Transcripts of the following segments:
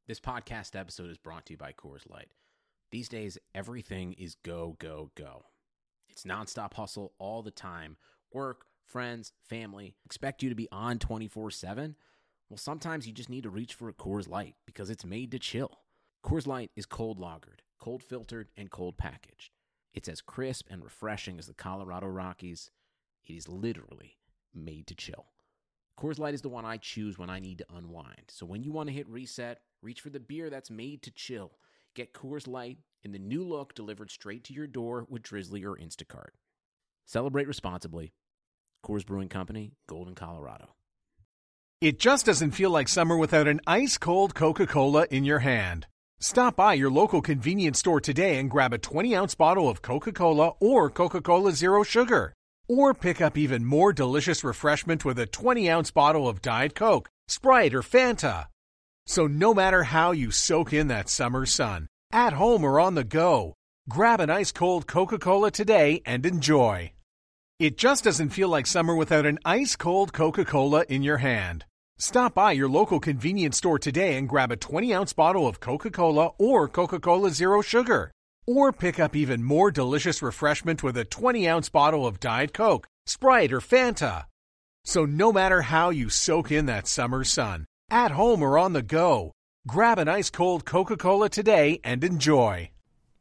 This podcast episode is brought to you by Coors Light. These days, everything is go, go, go. It's nonstop hustle all the time. Work, friends, family, expect you to be on 24/7. Well, sometimes you just need to reach for a Coors Light because it's made to chill. Coors Light is cold lagered, cold filtered, and cold packaged. It's as crisp and refreshing as the Colorado Rockies. It is literally made to chill. Coors Light is the one I choose when I need to unwind. So when you want to hit reset, reach for the beer that's made to chill. Get Coors Light in the new look delivered straight to your door with Drizzly or Instacart. Celebrate responsibly. Coors Brewing Company, Golden, Colorado. It just doesn't feel like summer without an ice-cold Coca-Cola in your hand. Stop by your local convenience store today and grab a 20-ounce bottle of Coca-Cola or Coca-Cola Zero Sugar. Or pick up even more delicious refreshment with a 20-ounce bottle of Diet Coke, Sprite, or Fanta. So no matter how you soak in that summer sun, at home or on the go, grab an ice-cold Coca-Cola today and enjoy. It just doesn't feel like summer without an ice-cold Coca-Cola in your hand. Stop by your local convenience store today and grab a 20-ounce bottle of Coca-Cola or Coca-Cola Zero Sugar. Or pick up even more delicious refreshment with a 20-ounce bottle of Diet Coke, Sprite, or Fanta. So no matter how you soak in that summer sun, at home or on the go, grab an ice-cold Coca-Cola today and enjoy.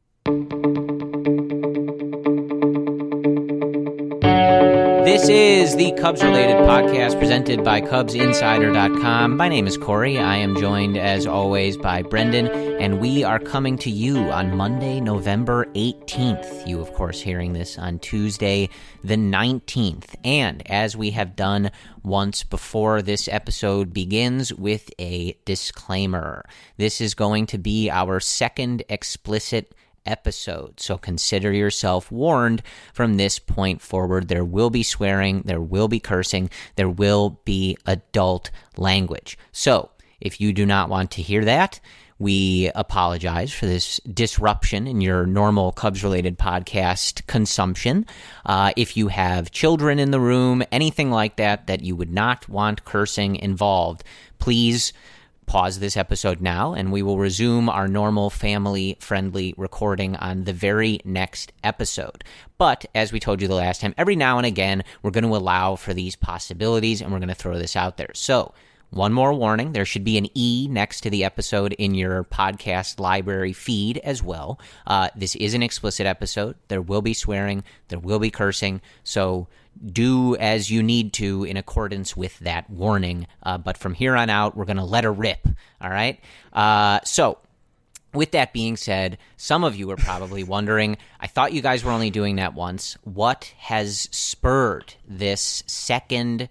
This is the Cubs-related podcast presented by CubsInsider.com. My name is Corey. I am joined, as always, by Brendan, and we are coming to you on Monday, November 18th. You, of course, hearing this on Tuesday, the 19th. And as we have done once before, this episode begins with a disclaimer. This is going to be our second explicit episode, so consider yourself warned from this point forward. There will be swearing, there will be cursing, there will be adult language. So if you do not want to hear that, we apologize for this disruption in your normal Cubs-related podcast consumption. If you have children in the room, anything like that, that you would not want cursing involved, please pause this episode now, and we will resume our normal family-friendly recording on the very next episode. But, as we told you the last time, every now and again, we're going to allow for these possibilities, and we're going to throw this out there. So, one more warning, there should be an E next to the episode in your podcast library feed as well. This is an explicit episode. There will be swearing, there will be cursing, so do as you need to in accordance with that warning. But from here on out, we're going to let her rip, all right? So, with that being said, some of you are probably wondering, I thought you guys were only doing that once. What has spurred this second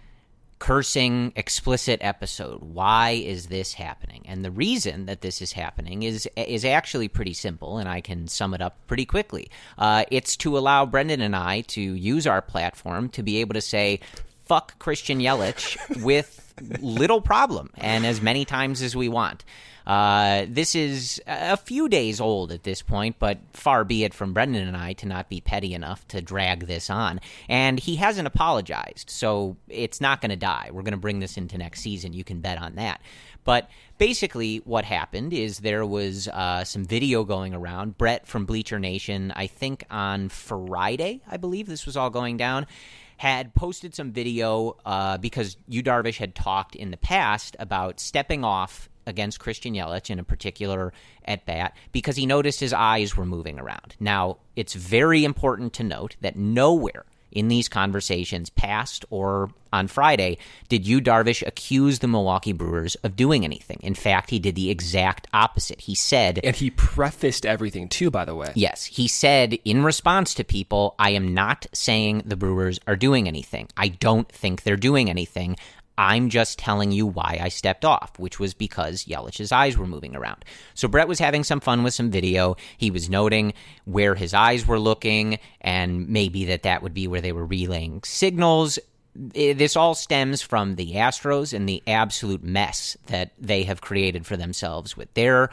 cursing explicit episode? Why is this happening? And the reason that this is happening is actually pretty simple, and I can sum it up pretty quickly. It's to allow Brendan and I to use our platform to be able to say, fuck Christian Yelich with little problem, and as many times as we want. This is a few days old at this point, but far be it from Brendan and I to not be petty enough to drag this on. And he hasn't apologized, so it's not going to die. We're going to bring this into next season. You can bet on that. But basically what happened is there was some video going around. Brett from Bleacher Nation, I think on Friday, I believe this was all going down, had posted some video because Yu Darvish had talked in the past about stepping off against Christian Yelich in a particular at-bat because he noticed his eyes were moving around. Now, it's very important to note that nowhere in these conversations, past or on Friday, did Yu Darvish accuse the Milwaukee Brewers of doing anything. In fact, he did the exact opposite. He said... And he prefaced everything, too, by the way. Yes. He said, in response to people, I am not saying the Brewers are doing anything. I don't think they're doing anything. I'm just telling you why I stepped off, which was because Yelich's eyes were moving around. So Brett was having some fun with some video. He was noting where his eyes were looking, and maybe that would be where they were relaying signals. This all stems from the Astros and the absolute mess that they have created for themselves with their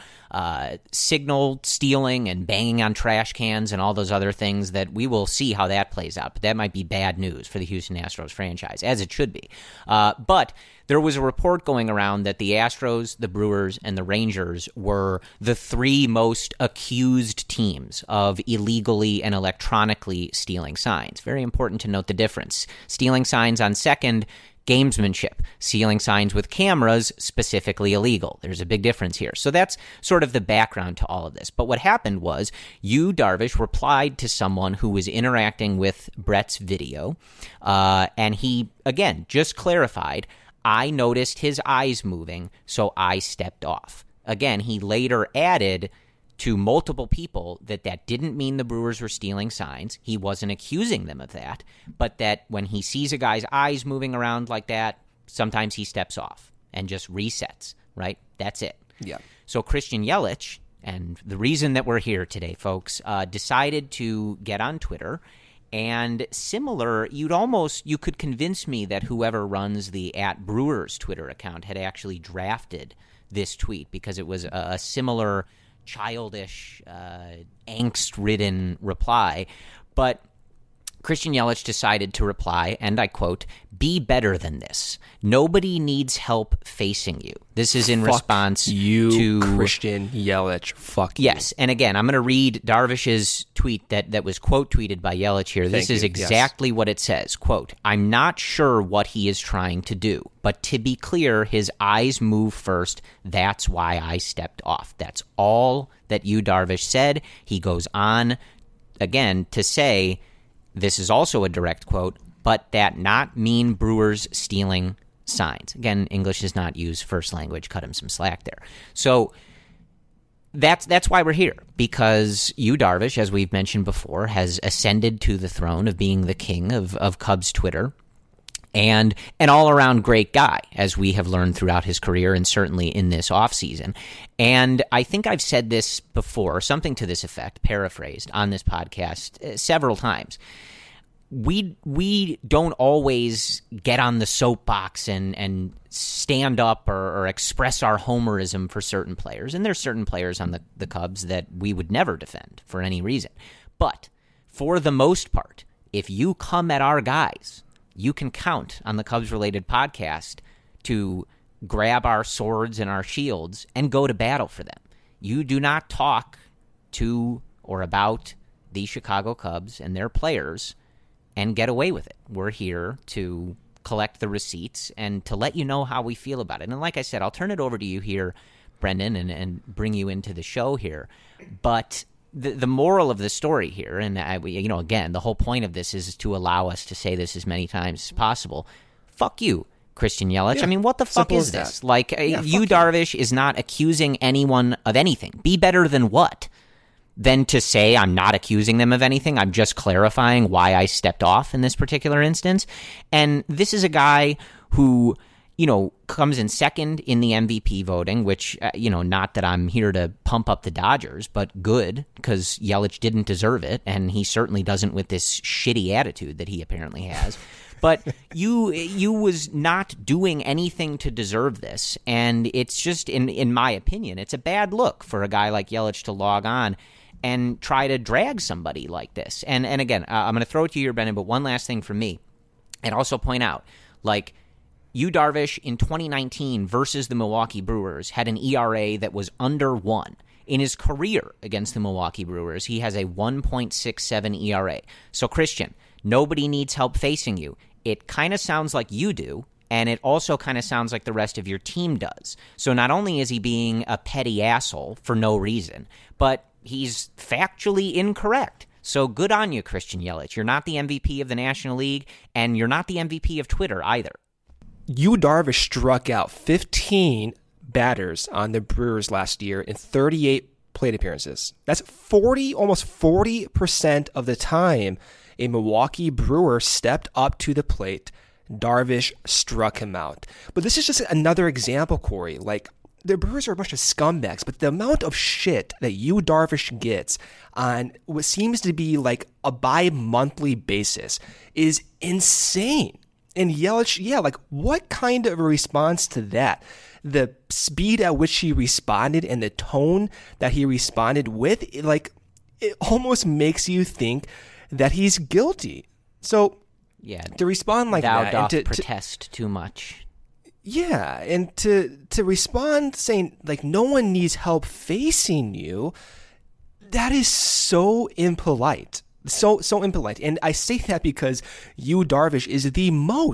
signal stealing and banging on trash cans and all those other things that we will see how that plays out. But that might be bad news for the Houston Astros franchise, as it should be. But there was a report going around that the Astros, the Brewers, and the Rangers were the three most accused teams of illegally and electronically stealing signs. Very important to note the difference. Stealing signs on second, gamesmanship. Stealing signs with cameras, specifically illegal. There's a big difference here. So that's sort of the background to all of this. But what happened was Yu Darvish replied to someone who was interacting with Brett's video, and he, again, just clarified, I noticed his eyes moving, so I stepped off. Again, he later added to multiple people that didn't mean the Brewers were stealing signs. He wasn't accusing them of that, but that when he sees a guy's eyes moving around like that, sometimes he steps off and just resets, right? That's it. Yeah. So Christian Yelich, and the reason that we're here today, folks, decided to get on Twitter. And similar, you could convince me that whoever runs the @Brewers Twitter account had actually drafted this tweet because it was a similar childish, angst-ridden reply. But Christian Yelich decided to reply, and I quote, "Be better than this. Nobody needs help facing you." This is in response to Christian Yelich. Fuck you. Yes, and again, I'm going to read Darvish's tweet that was quote tweeted by Yelich here. This is exactly what it says. Quote, "I'm not sure what he is trying to do, but to be clear, his eyes move first. That's why I stepped off." That's all that Yu Darvish said. He goes on again to say, this is also a direct quote, "but that not mean Brewers stealing signs." Again, English is not used first language. Cut him some slack there. So that's why we're here, because Yu Darvish, as we've mentioned before, has ascended to the throne of being the king of Cubs Twitter, and an all-around great guy, as we have learned throughout his career and certainly in this offseason. And I think I've said this before, something to this effect, paraphrased, on this podcast several times. We don't always get on the soapbox and stand up or express our homerism for certain players. And there's certain players on the Cubs that we would never defend for any reason. But for the most part, if you come at our guys, you can count on the Cubs-related podcast to grab our swords and our shields and go to battle for them. You do not talk to or about the Chicago Cubs and their players and get away with it. We're here to collect the receipts and to let you know how we feel about it. And like I said, I'll turn it over to you here, Brendan, and bring you into the show here. But the moral of the story here, and again, the whole point of this is to allow us to say this as many times as possible. Fuck you, Christian Yelich. Yeah, I mean, what the fuck is this? That. Like, Yu Darvish is not accusing anyone of anything. Be better than what? Than to say I'm not accusing them of anything. I'm just clarifying why I stepped off in this particular instance. And this is a guy who, comes in second in the MVP voting, which, not that I'm here to pump up the Dodgers, but good, because Yelich didn't deserve it, and he certainly doesn't with this shitty attitude that he apparently has. But you was not doing anything to deserve this, and it's just, in my opinion, it's a bad look for a guy like Yelich to log on and try to drag somebody like this. And again, I'm going to throw it to you, Brendan, but one last thing from me, and also point out, Yu Darvish in 2019 versus the Milwaukee Brewers had an ERA that was under 1. In his career against the Milwaukee Brewers, he has a 1.67 ERA. So, Christian, nobody needs help facing you. It kind of sounds like you do, and it also kind of sounds like the rest of your team does. So not only is he being a petty asshole for no reason, but he's factually incorrect. So good on you, Christian Yelich. You're not the MVP of the National League, and you're not the MVP of Twitter either. Yu Darvish struck out 15 batters on the Brewers last year in 38 plate appearances. That's almost 40% of the time a Milwaukee Brewer stepped up to the plate, Darvish struck him out. But this is just another example, Corey. The Brewers are a bunch of scumbags, but the amount of shit that Yu Darvish gets on what seems to be a bi-monthly basis is insane. And Yelich, what kind of a response to that? The speed at which he responded and the tone that he responded with, it almost makes you think that he's guilty. So, yeah, to respond like thou that, doth and protest too much. Yeah, and to respond saying, like, no one needs help facing you, that is so impolite. So impolite. And I say that because Yu Darvish is the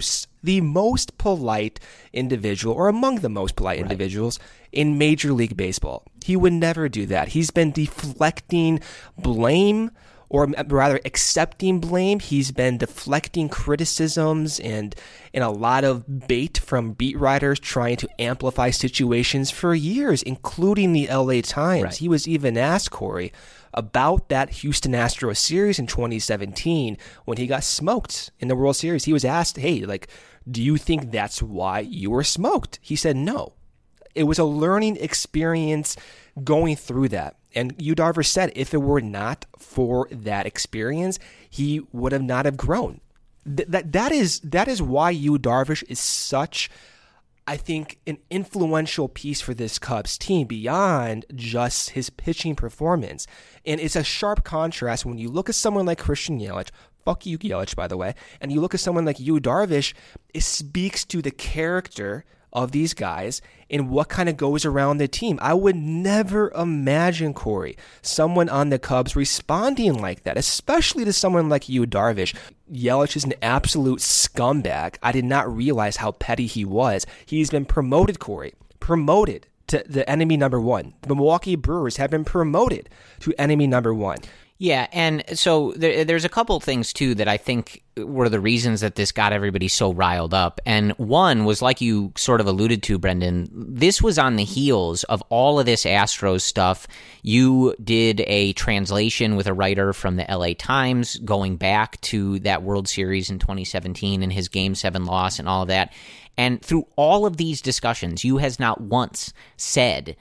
most polite individual, or among the most polite individuals in Major League Baseball. He would never do that. He's been deflecting blame, or rather accepting blame. He's been deflecting criticisms and a lot of bait from beat writers trying to amplify situations for years, including the LA Times. Right. He was even asked, Corey, about that Houston Astros series in 2017 when he got smoked in the World Series. He was asked, hey, like, do you think that's why you were smoked? He said no. It was a learning experience going through that. And Yu Darvish said if it were not for that experience, he would have not have grown. That is why Yu Darvish is such, I think, an influential piece for this Cubs team beyond just his pitching performance. And it's a sharp contrast when you look at someone like Christian Yelich, fuck you, Yelich, by the way, and you look at someone like Yu Darvish, it speaks to the character of these guys and what kind of goes around the team. I would never imagine, Corey, someone on the Cubs responding like that, especially to someone like Yu Darvish. Yelich is an absolute scumbag. I did not realize how petty he was. He's been promoted, Corey, promoted to the enemy number one. The Milwaukee Brewers have been promoted to enemy number one. Yeah, and so there's a couple things, too, that I think were the reasons that this got everybody so riled up. And one was, like you sort of alluded to, Brendan, this was on the heels of all of this Astros stuff. You did a translation with a writer from the LA Times going back to that World Series in 2017 and his Game 7 loss and all of that. And through all of these discussions, you has not once said,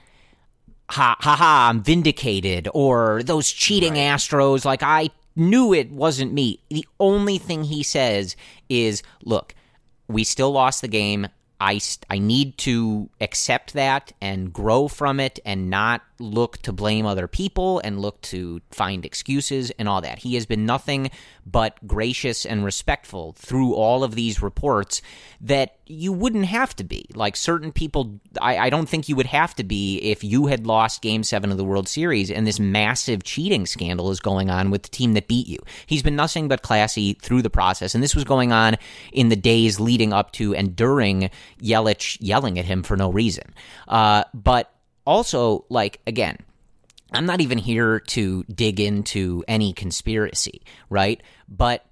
ha ha ha, I'm vindicated, or those cheating Astros, like I knew it wasn't me. The only thing he says is, look, we still lost the game. I need to accept that and grow from it and not look to blame other people and look to find excuses and all that. He has been nothing but gracious and respectful through all of these reports that you wouldn't have to be. Like certain people, I don't think you would have to be if you had lost Game 7 of the World Series and this massive cheating scandal is going on with the team that beat you. He's been nothing but classy through the process, and this was going on in the days leading up to and during Yelich yelling at him for no reason. But also, like, again, I'm not even here to dig into any conspiracy, right? But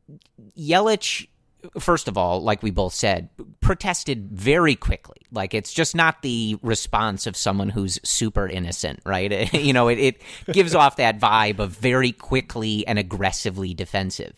Yelich, first of all, like we both said, protested very quickly. Like, it's just not the response of someone who's super innocent, right? You know, it gives off that vibe of very quickly and aggressively defensive.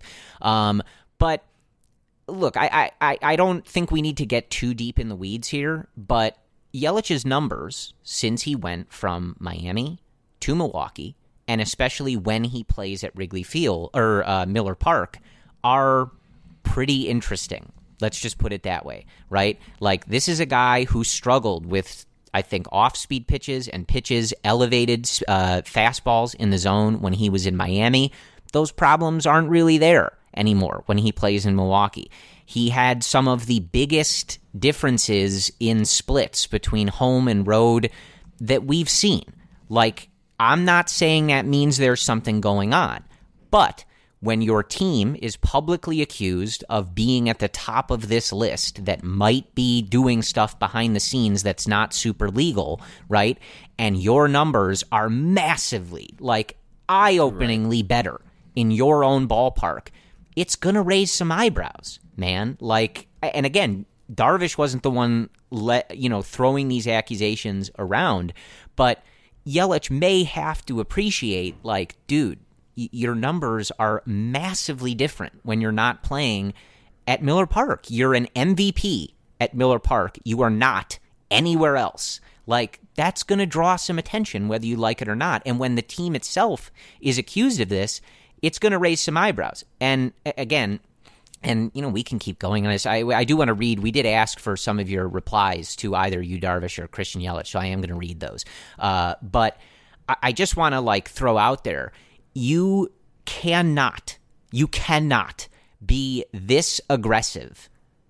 But look, I don't think we need to get too deep in the weeds here, but Yelich's numbers since he went from Miami to Milwaukee, and especially when he plays at Wrigley Field or Miller Park, are pretty interesting. Let's just put it that way, right? Like, this is a guy who struggled with, I think, off-speed pitches and pitches, elevated fastballs in the zone when he was in Miami. Those problems aren't really there anymore when he plays in Milwaukee. He had some of the biggest differences in splits between home and road that we've seen. Like, I'm not saying that means there's something going on, but when your team is publicly accused of being at the top of this list that might be doing stuff behind the scenes that's not super legal, right? And your numbers are massively, like, eye-openingly better in your own ballpark, it's going to raise some eyebrows, man. Like, and again, Darvish wasn't the one throwing these accusations around, but Yelich may have to appreciate, like, dude, your numbers are massively different when you're not playing at Miller Park. You're an MVP at Miller Park. You are not anywhere else. Like, that's going to draw some attention whether you like it or not. And when the team itself is accused of this, it's going to raise some eyebrows. And again, and, you know, we can keep going on this. I do want to read. We did ask for some of your replies to either Yu Darvish or Christian Yelich, so I am going to read those. But I just want to, like, throw out there, you cannot be this aggressive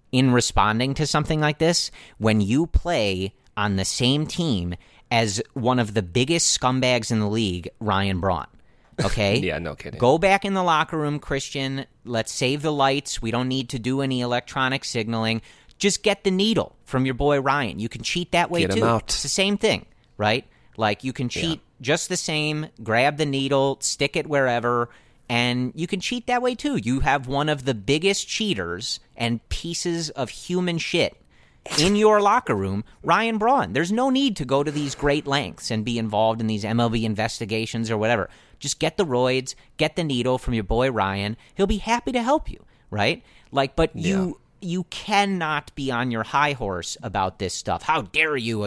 in responding to something like this when you play on the same team as one of the biggest scumbags in the league, Ryan Braun. Okay? Yeah, no kidding. Go back in the locker room, Christian. Let's save the lights. We don't need to do any electronic signaling. Just get the needle from your boy Ryan. You can cheat that way, Get too. him out. It's the same thing, right? Like, you can cheat just the same, grab the needle, stick it wherever, and you can cheat that way, too. You have one of the biggest cheaters and pieces of human shit in your locker room, Ryan Braun. There's no need to go to these great lengths and be involved in these MLB investigations or whatever. Just get the roids, get the needle from your boy Ryan. He'll be happy to help you, right? Like, but you cannot be on your high horse about this stuff. How dare you,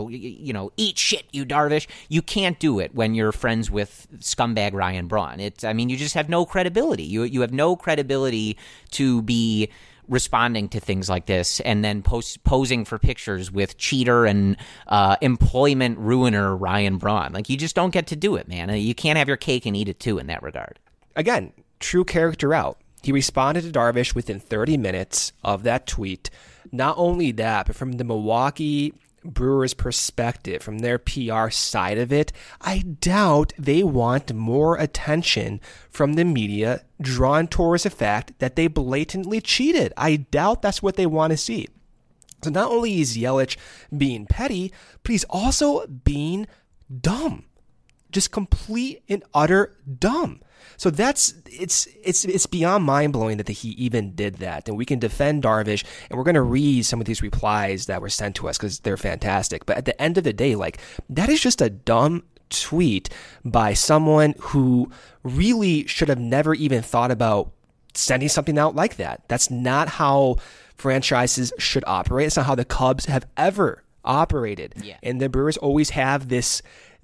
eat shit, you Darvish. You can't do it when you're friends with scumbag Ryan Braun. You just have no credibility. You have no credibility to be responding to things like this and then posing for pictures with cheater and employment ruiner Ryan Braun. Like, you just don't get to do it, man. You can't have your cake and eat it too in that regard. Again, true character out. He responded to Darvish within 30 minutes of that tweet. Not only that, but from the Milwaukee Brewers' perspective, from their PR side of it, I doubt they want more attention from the media drawn towards the fact that they blatantly cheated. I doubt that's what they want to see. So not only is Yelich being petty, but he's also being dumb. Just complete and utter dumb. So it's beyond mind-blowing that he even did that. And we can defend Darvish, and we're going to read some of these replies that were sent to us because they're fantastic. But at the end of the day, like, that is just a dumb tweet by someone who really should have never even thought about sending something out like that. That's not how franchises should operate. It's not how the Cubs have ever operated. Yeah. And the Brewers always have this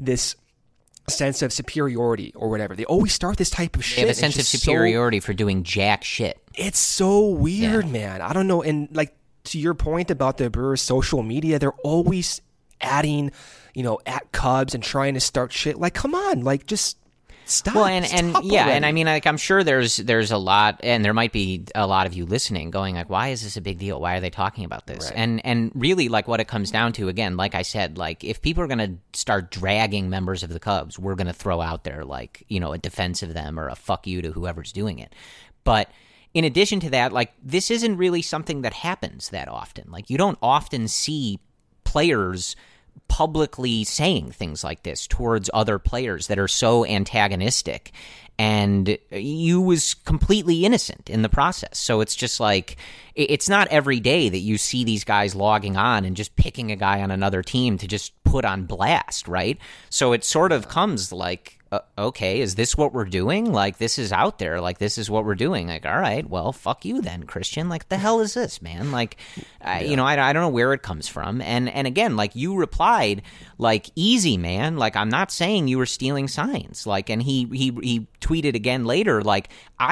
sense of superiority or whatever. They always start this type of shit. They have a sense of superiority for doing jack shit. It's so weird, man. I don't know. And like, to your point about the Brewers' social media, they're always adding, at Cubs and trying to start shit. Like, come on, like, just stop. Well, stop yeah, already. and I mean, like, I'm sure there's a lot, and there might be a lot of you listening going like, why is this a big deal? Why are they talking about this? Right. And really, like, what it comes down to, again, like I said, like, if people are going to start dragging members of the Cubs, we're going to throw out there, like, a defense of them or a fuck you to whoever's doing it. But in addition to that, like, this isn't really something that happens that often. Like, you don't often see players publicly saying things like this towards other players that are so antagonistic, and you was completely innocent in the process. So it's just like, it's not every day that you see these guys logging on and just picking a guy on another team to just put on blast, right? So it sort of comes like, okay, is this what we're doing? Like, this is out there. Like, this is what we're doing. Like, all right, well, fuck you then, Christian. Like, the hell is this, man? Like, I don't know where it comes from. And again, like, you replied, like, easy, man. Like, I'm not saying you were stealing signs. Like, and he tweeted again later, like,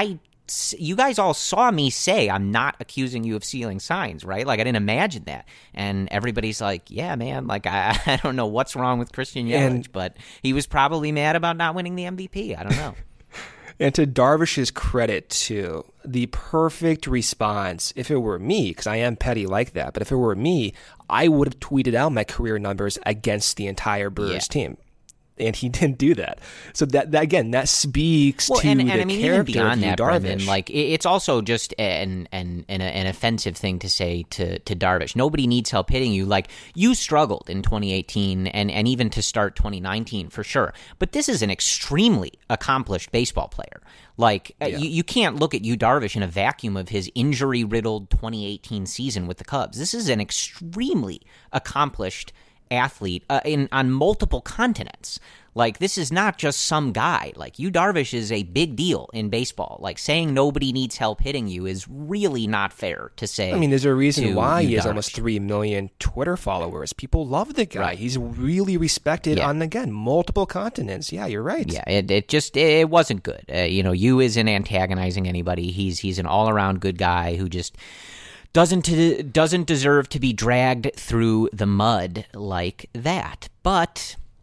you guys all saw me say I'm not accusing you of stealing signs, right? Like, I didn't imagine that. And everybody's like, yeah, man, like, I don't know what's wrong with Christian Yelich, but he was probably mad about not winning the MVP. I don't know. And to Darvish's credit, too, the perfect response, if it were me, because I am petty like that, but if it were me, I would have tweeted out my career numbers against the entire Brewers team. And he didn't do that. So that again, that speaks to the I mean, character even beyond of that, Darvish. Brendan, like, it's also just an offensive thing to say to Darvish. Nobody needs help hitting you. Like, you struggled in 2018 and even to start 2019 for sure. But this is an extremely accomplished baseball player. Like, you can't look at Yu Darvish in a vacuum of his injury-riddled 2018 season with the Cubs. This is an extremely accomplished athlete on multiple continents. Like, this is not just some guy. Like, Yu Darvish is a big deal in baseball. Like, saying nobody needs help hitting you is really not fair to say. I mean, there's a reason why he has Darvish. almost 3 million Twitter followers. People love the guy. Right. He's really respected on, again, multiple continents. Yeah, you're right. Yeah, it wasn't good. Yu isn't antagonizing anybody. He's an all-around good guy who just doesn't deserve to be dragged through the mud like that. But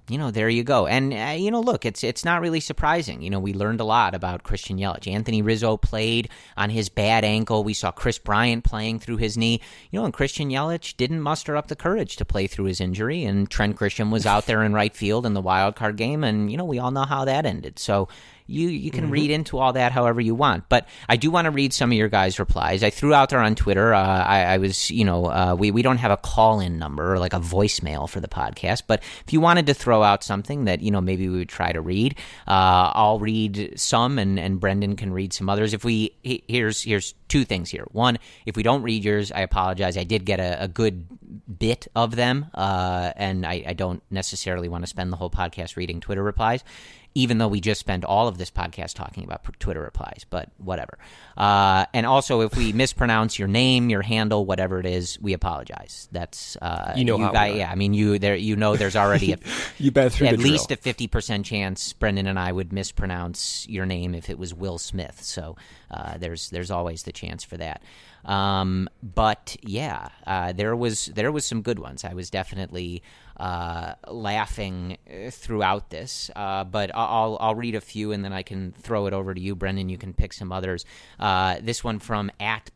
there you go. And, look, it's not really surprising. We learned a lot about Christian Yelich. Anthony Rizzo played on his bad ankle. We saw Chris Bryant playing through his knee. And Christian Yelich didn't muster up the courage to play through his injury. And Trent Grisham was out there in right field in the wild card game. And, we all know how that ended. So you can read into all that however you want. But I do want to read some of your guys' replies. I threw out there on Twitter. I was, we don't have a call-in number or like a voicemail for the podcast. But if you wanted to throw out something that, maybe we would try to read, I'll read some and Brendan can read some others. Here's two things here. One, if we don't read yours, I apologize. I did get a good bit of them, and I don't necessarily want to spend the whole podcast reading Twitter replies, even though we just spent all of this podcast talking about Twitter replies, but whatever. And also, if we mispronounce your name, your handle, whatever it is, we apologize. That's there's already you've been through at the least drill. a 50% chance Brendan and I would mispronounce your name if it was Will Smith. So there's always the chance for that. But yeah, there was some good ones. I was definitely laughing throughout this, but I'll read a few and then I can throw it over to you, Brendan. You can pick some others. This one from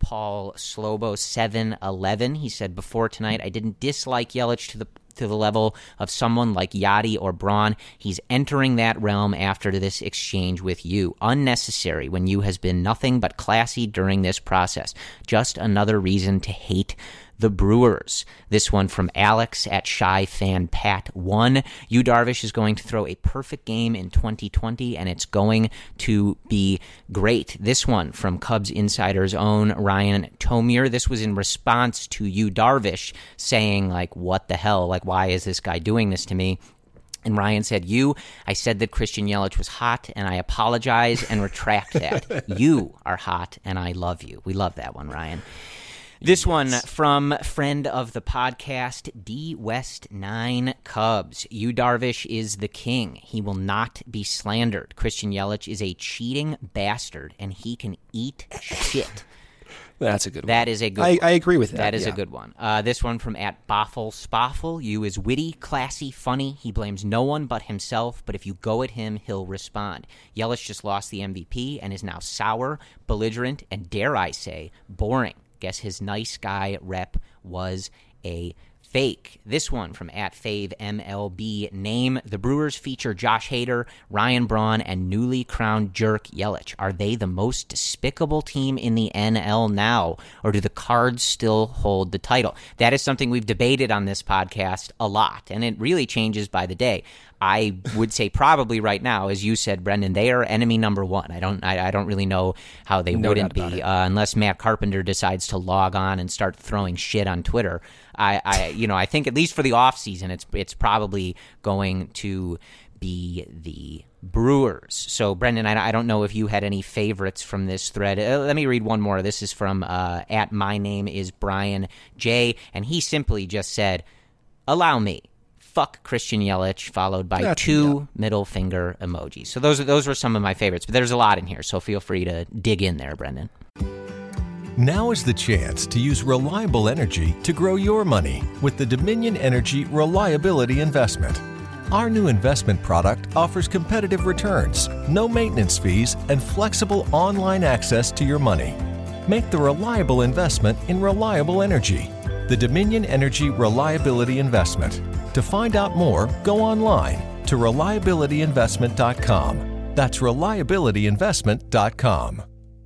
@PaulSlobo711. He said, before tonight, I didn't dislike Yelich to the level of someone like Yachty or Braun. He's entering that realm after this exchange with you. Unnecessary when you has been nothing but classy during this process. Just another reason to hate the Brewers. This one from Alex @ShyFanPat1. Yu Darvish is going to throw a perfect game in 2020, and it's going to be great. This one from Cubs Insider's own Ryan Tomier. This was in response to Yu Darvish saying, like, what the hell? Like, why is this guy doing this to me? And Ryan said, I said that Christian Yelich was hot, and I apologize and retract that. You are hot, and I love you. We love that one, Ryan. This one from friend of the podcast, D West 9 Cubs. Yu Darvish is the king. He will not be slandered. Christian Yelich is a cheating bastard, and he can eat shit. That's a good one. That is a good one. I agree with that. That is a good one. This one from @BoffleSpoffle. Yu is witty, classy, funny. He blames no one but himself, but if you go at him, he'll respond. Yelich just lost the MVP and is now sour, belligerent, and dare I say, boring. Guess his nice guy rep was a fake. This one from @FaveMLB. Name the Brewers feature Josh Hader, Ryan Braun, and newly crowned jerk Yelich. Are they the most despicable team in the NL now, or do the Cards still hold the title? That is something we've debated on this podcast a lot, and it really changes by the day. I would say probably right now, as you said, Brendan, they are enemy number one. I don't really know how they wouldn't be unless Matt Carpenter decides to log on and start throwing shit on Twitter. I think at least for the off season, it's probably going to be the Brewers. So, Brendan, I don't know if you had any favorites from this thread. Let me read one more. This is from @MyNameIsBrianJ, and he simply just said, "Allow me. Fuck Christian Yelich," followed by two middle finger emojis. So those were some of my favorites, but there's a lot in here, so feel free to dig in there, Brendan. Now is the chance to use reliable energy to grow your money with the Dominion Energy Reliability Investment. Our new investment product offers competitive returns, no maintenance fees, and flexible online access to your money. Make the reliable investment in reliable energy. The Dominion Energy Reliability Investment. To find out more, go online to reliabilityinvestment.com. That's reliabilityinvestment.com.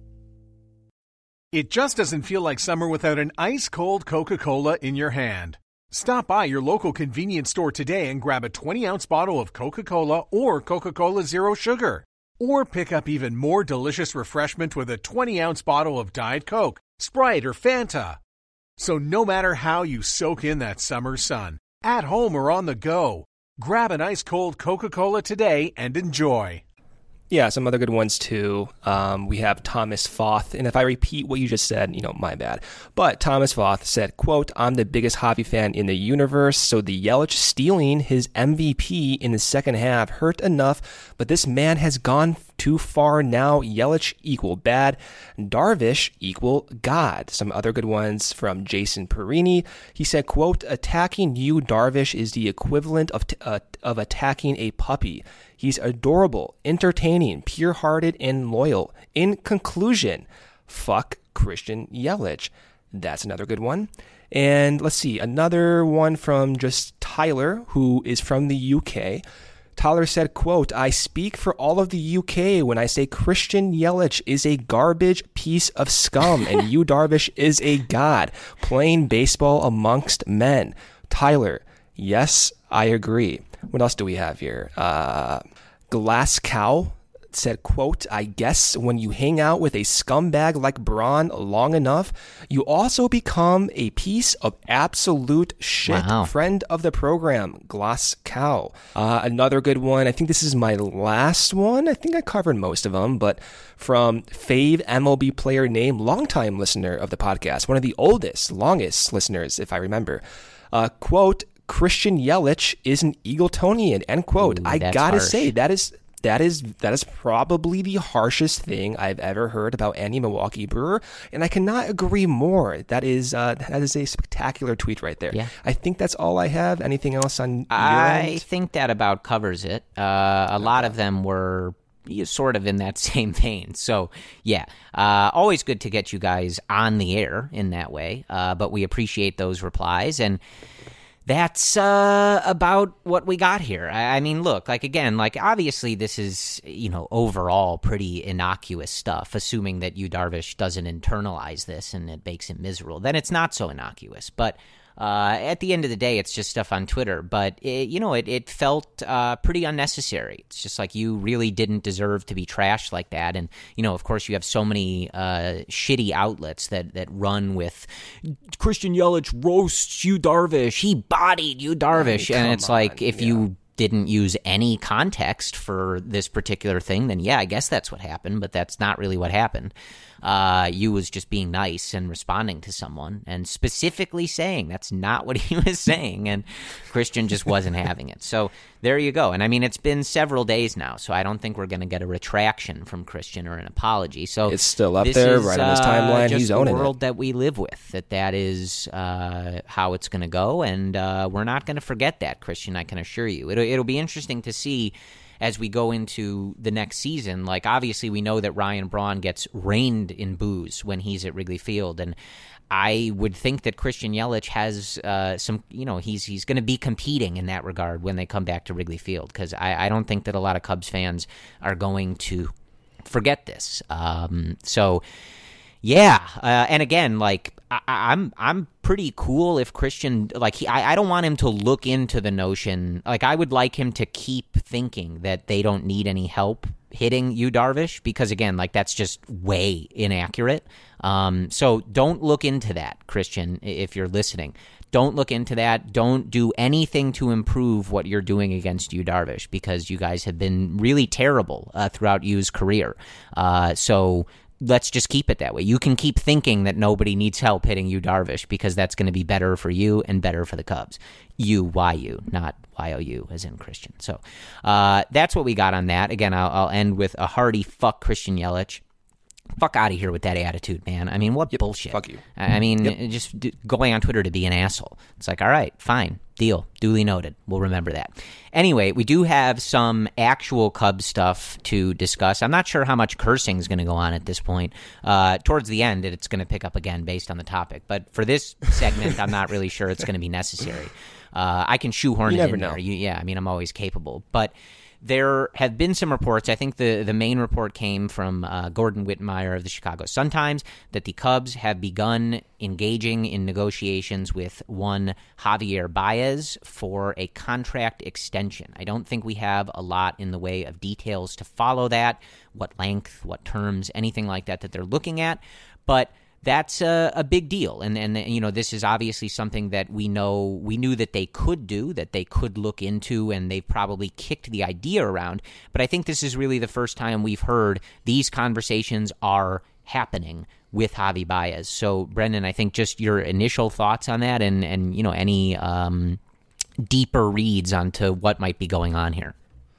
It just doesn't feel like summer without an ice-cold Coca-Cola in your hand. Stop by your local convenience store today and grab a 20-ounce bottle of Coca-Cola or Coca-Cola Zero Sugar. Or pick up even more delicious refreshment with a 20-ounce bottle of Diet Coke, Sprite, or Fanta. So no matter how you soak in that summer sun, at home or on the go, grab an ice-cold Coca-Cola today and enjoy. Yeah, some other good ones too. We have Thomas Foth, and if I repeat what you just said, my bad. But Thomas Foth said, quote, "I'm the biggest hockey fan in the universe, so the Yelich stealing his MVP in the second half hurt enough, but this man has gone too far now. Yelich equal bad. Darvish equal God. Some other good ones from Jason Perini. He said, quote, attacking Yu Darvish is the equivalent of attacking a puppy. He's adorable, entertaining, pure-hearted, and loyal. In conclusion, fuck Christian Yelich. That's another good one. And let's see, another one from just Tyler, who is from the UK. Tyler said, quote, I speak for all of the UK when I say Christian Yelich is a garbage piece of scum and Yu Darvish is a god playing baseball amongst men. Tyler, yes, I agree. What else do we have here? Glass Cow said, quote, I guess when you hang out with a scumbag like Braun long enough, you also become a piece of absolute shit. Wow. Friend of the program, Glass Cow. Another good one. I think this is my last one. I think I covered most of them, but from Fave MLB player name, longtime listener of the podcast, one of the longest listeners, if I remember. Quote, Christian Yelich is an Eagletonian, end quote. Ooh, I gotta harsh. say, that is probably the harshest thing I've ever heard about any Milwaukee Brewer, and I cannot agree more. That is a spectacular tweet right there. Yeah. I think that's all I have. Anything else on your I end? think that about covers it. A lot of them were sort of in that same vein. So, yeah, always good to get you guys on the air in that way, but we appreciate those replies, and that's about what we got here. I mean, look, again, obviously this is, overall pretty innocuous stuff, assuming that Yu Darvish doesn't internalize this and it makes him miserable. Then it's not so innocuous. But at the end of the day, it's just stuff on Twitter. But, it felt pretty unnecessary. It's just you really didn't deserve to be trashed like that. And, of course, you have so many shitty outlets that run with Christian Yelich roasts Yu Darvish. He bodied Yu Darvish. And it's if you didn't use any context for this particular thing, then yeah, I guess that's what happened, but that's not really what happened. Yu was just being nice and responding to someone and specifically saying that's not what he was saying, and Christian just wasn't having it. So there you go. And I mean, it's been several days now, so I don't think we're going to get a retraction from Christian or an apology. So it's still up there, right on his timeline. He's owning it. Just the world that we live with, that is how it's going to go, and we're not going to forget that, Christian, I can assure you. It'll be interesting to see as we go into the next season. Obviously we know that Ryan Braun gets rained in boos when he's at Wrigley Field, and I would think that Christian Yelich has some, he's going to be competing in that regard when they come back to Wrigley Field, because I don't think that a lot of Cubs fans are going to forget this. Yeah, and again, I'm pretty cool if Christian, I don't want him to look into the notion, I would like him to keep thinking that they don't need any help hitting Yu Darvish, because again, that's just way inaccurate. So don't look into that, Christian, if you're listening. Don't look into that. Don't do anything to improve what you're doing against Yu Darvish, because you guys have been really terrible throughout Yu's career. So let's just keep it that way. You can keep thinking that nobody needs help hitting Yu Darvish, because that's going to be better for you and better for the Cubs. U-Y-U, not Y-O-U, as in Christian. So that's what we got on that. Again, I'll end with a hearty fuck Christian Yelich. Fuck out of here with that attitude, man. I mean, what bullshit. Fuck you. I mean, just going on Twitter to be an asshole. It's all right, fine, deal, duly noted. We'll remember that. Anyway, we do have some actual Cubs stuff to discuss. I'm not sure how much cursing is going to go on at this point. Towards the end, it's going to pick up again based on the topic. But for this segment, I'm not really sure it's going to be necessary. I can shoehorn it in there. Yeah, I mean, I'm always capable. But there have been some reports. I think the main report came from Gordon Wittenmyer of the Chicago Sun-Times, that the Cubs have begun engaging in negotiations with one Javier Baez for a contract extension. I don't think we have a lot in the way of details to follow that, what length, what terms, anything like that they're looking at, but that's a big deal, and this is obviously something that we knew that they could do, that they could look into, and they've probably kicked the idea around. But I think this is really the first time we've heard these conversations are happening with Javi Baez. So, Brendan, I think just your initial thoughts on that, and any deeper reads onto what might be going on here.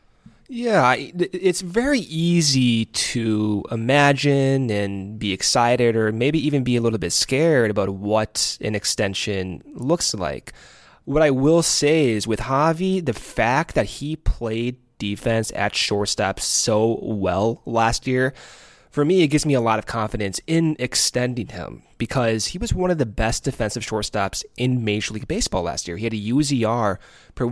Yeah, it's very easy to imagine and be excited or maybe even be a little bit scared about what an extension looks like. What I will say is with Javi, the fact that he played defense at shortstop so well last year, for me, it gives me a lot of confidence in extending him because he was one of the best defensive shortstops in Major League Baseball last year. He had a UZR per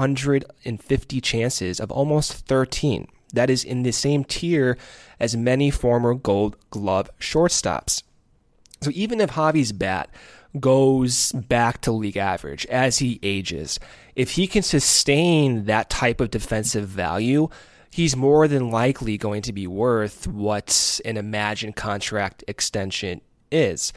150 chances of almost 13. That is in the same tier as many former Gold Glove shortstops. So even if Javi's bat goes back to league average as he ages, if he can sustain that type of defensive value, he's more than likely going to be worth what an imagined contract extension is.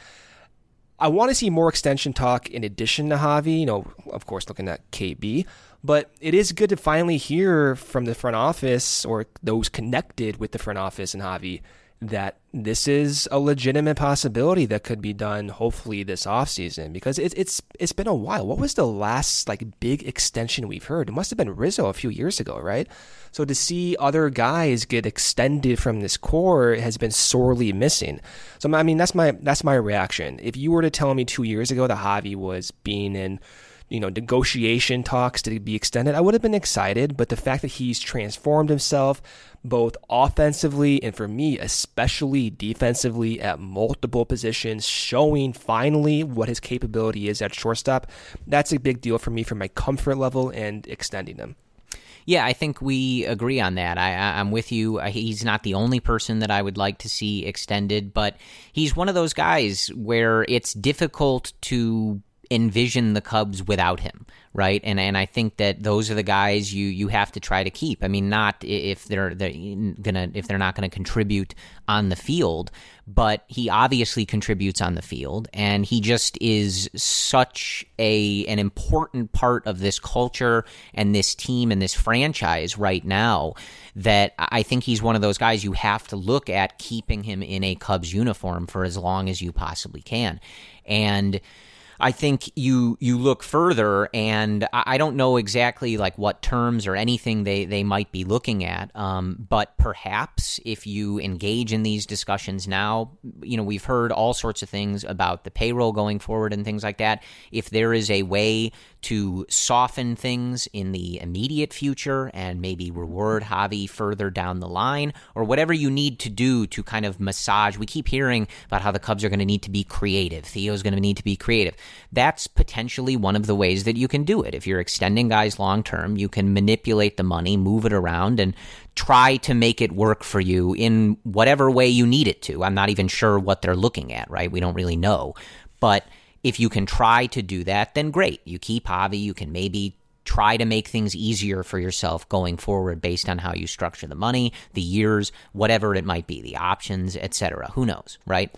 I want to see more extension talk in addition to Javi, of course, looking at KB, but it is good to finally hear from the front office or those connected with the front office and Javi that this is a legitimate possibility that could be done hopefully this offseason because it's been a while. What was the last big extension we've heard? It must have been Rizzo a few years ago, right? So to see other guys get extended from this core has been sorely missing. So I mean that's my reaction. If you were to tell me 2 years ago that Javi was being in negotiation talks to be extended, I would have been excited, but the fact that he's transformed himself both offensively and for me, especially defensively at multiple positions, showing finally what his capability is at shortstop, that's a big deal for me for my comfort level and extending him. Yeah, I think we agree on that. I'm with you. He's not the only person that I would like to see extended, but he's one of those guys where it's difficult to envision the Cubs without him, right? And I think that those are the guys you have to try to keep. I mean, not if they're not gonna contribute on the field, but he obviously contributes on the field, and he just is such an important part of this culture and this team and this franchise right now that I think he's one of those guys you have to look at keeping him in a Cubs uniform for as long as you possibly can. And I think you look further, and I don't know exactly what terms or anything they might be looking at, but perhaps if you engage in these discussions now, we've heard all sorts of things about the payroll going forward and things like that. If there is a way to soften things in the immediate future and maybe reward Javi further down the line, or whatever you need to do to kind of massage. We keep hearing about how the Cubs are going to need to be creative. Theo's going to need to be creative. That's potentially one of the ways that you can do it. If you're extending guys long term, you can manipulate the money, move it around, and try to make it work for you in whatever way you need it to. I'm not even sure what they're looking at, right? We don't really know. But if you can try to do that, then great. You keep Javi. You can maybe try to make things easier for yourself going forward based on how you structure the money, the years, whatever it might be, the options, etc. Who knows, right?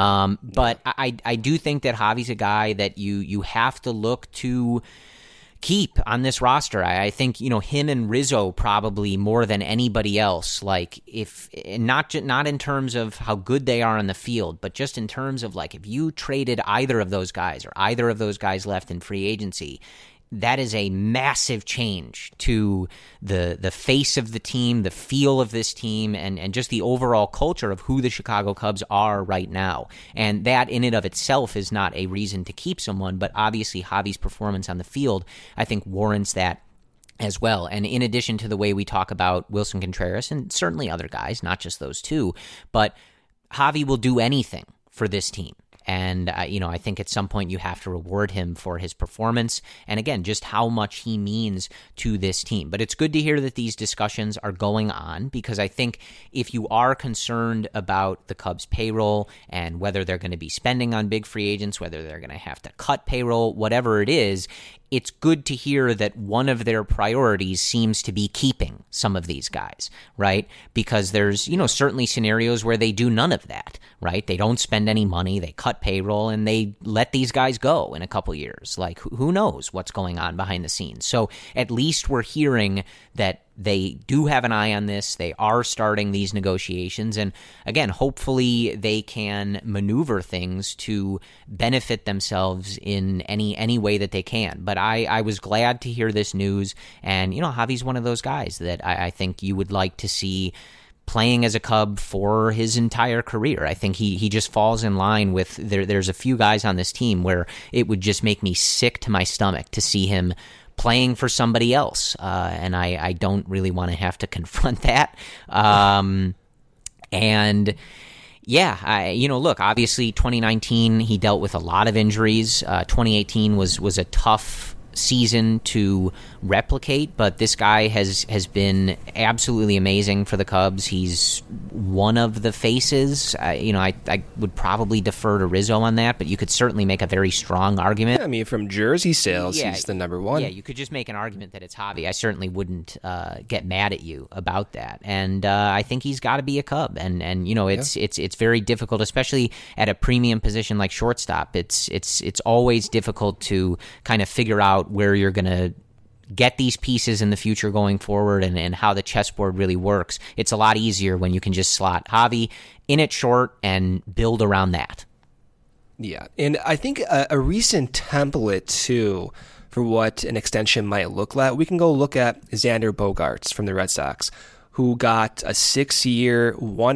But I do think that Javi's a guy that you have to look to keep on this roster. I think, him and Rizzo probably more than anybody else, if not in terms of how good they are on the field, but just in terms of if you traded either of those guys or either of those guys left in free agency, that is a massive change to the face of the team, the feel of this team, and just the overall culture of who the Chicago Cubs are right now. And that in and of itself is not a reason to keep someone, but obviously Javi's performance on the field, I think, warrants that as well. And in addition to the way we talk about Wilson Contreras and certainly other guys, not just those two, but Javi will do anything for this team. And, I think at some point you have to reward him for his performance and, again, just how much he means to this team. But it's good to hear that these discussions are going on because I think if you are concerned about the Cubs' payroll and whether they're going to be spending on big free agents, whether they're going to have to cut payroll, whatever it is, it's good to hear that one of their priorities seems to be keeping some of these guys, right? Because there's, certainly scenarios where they do none of that, right? They don't spend any money, they cut payroll, and they let these guys go in a couple years. Who knows what's going on behind the scenes? So at least we're hearing that they do have an eye on this. They are starting these negotiations. And again, hopefully they can maneuver things to benefit themselves in any way that they can. But I was glad to hear this news. And, Javi's one of those guys that I think you would like to see playing as a Cub for his entire career. I think he just falls in line with, there's a few guys on this team where it would just make me sick to my stomach to see him playing for somebody else. And I don't really want to have to confront that. And yeah, look, obviously 2019, he dealt with a lot of injuries. 2018 was a tough season to replicate, but this guy has been absolutely amazing for the Cubs. He's one of the faces. I would probably defer to Rizzo on that, but you could certainly make a very strong argument. Yeah, I mean, from jersey sales, he's the number one. Yeah, you could just make an argument that it's Javi. I certainly wouldn't get mad at you about that. And I think he's got to be a Cub. And it's very difficult, especially at a premium position like shortstop. It's always difficult to kind of figure out where you're going to get these pieces in the future going forward and how the chessboard really works. It's a lot easier when you can just slot Javi in at short and build around that. Yeah, and I think a recent template, too, for what an extension might look like, we can go look at Xander Bogaerts from the Red Sox, who got a 6-year,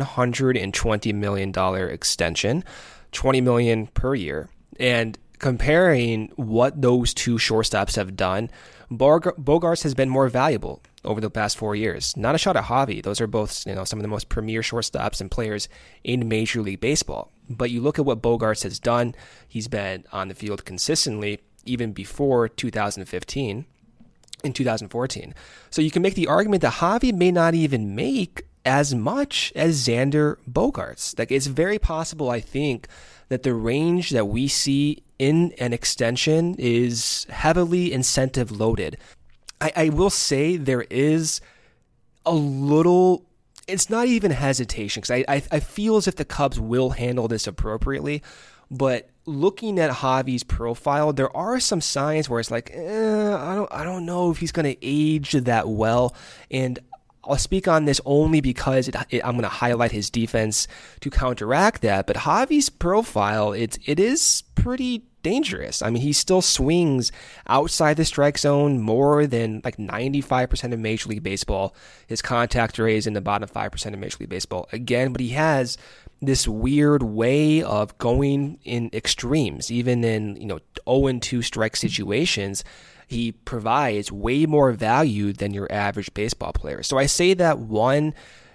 $120 million extension, $20 million per year. And comparing what those two shortstops have done, Bogaerts has been more valuable over the past 4 years. Not a shot at Javi. Those are both, some of the most premier shortstops and players in Major League Baseball. But you look at what Bogaerts has done. He's been on the field consistently even before 2015, in 2014. So you can make the argument that Javi may not even make as much as Xander Bogaerts. Like, it's very possible, I think, that the range that we see in an extension is heavily incentive loaded. I will say there is a little, it's not even hesitation, because I feel as if the Cubs will handle this appropriately, but looking at Javi's profile, there are some signs where it's like, I don't know if he's going to age that well. And I'll speak on this only because I'm going to highlight his defense to counteract that. But Javi's profile, it is pretty dangerous. I mean, he still swings outside the strike zone more than like 95% of Major League Baseball. His contact rate is in the bottom 5% of Major League Baseball again, but he has this weird way of going in extremes, even in 0-2 strike situations. He provides way more value than your average baseball player. So I say that, one,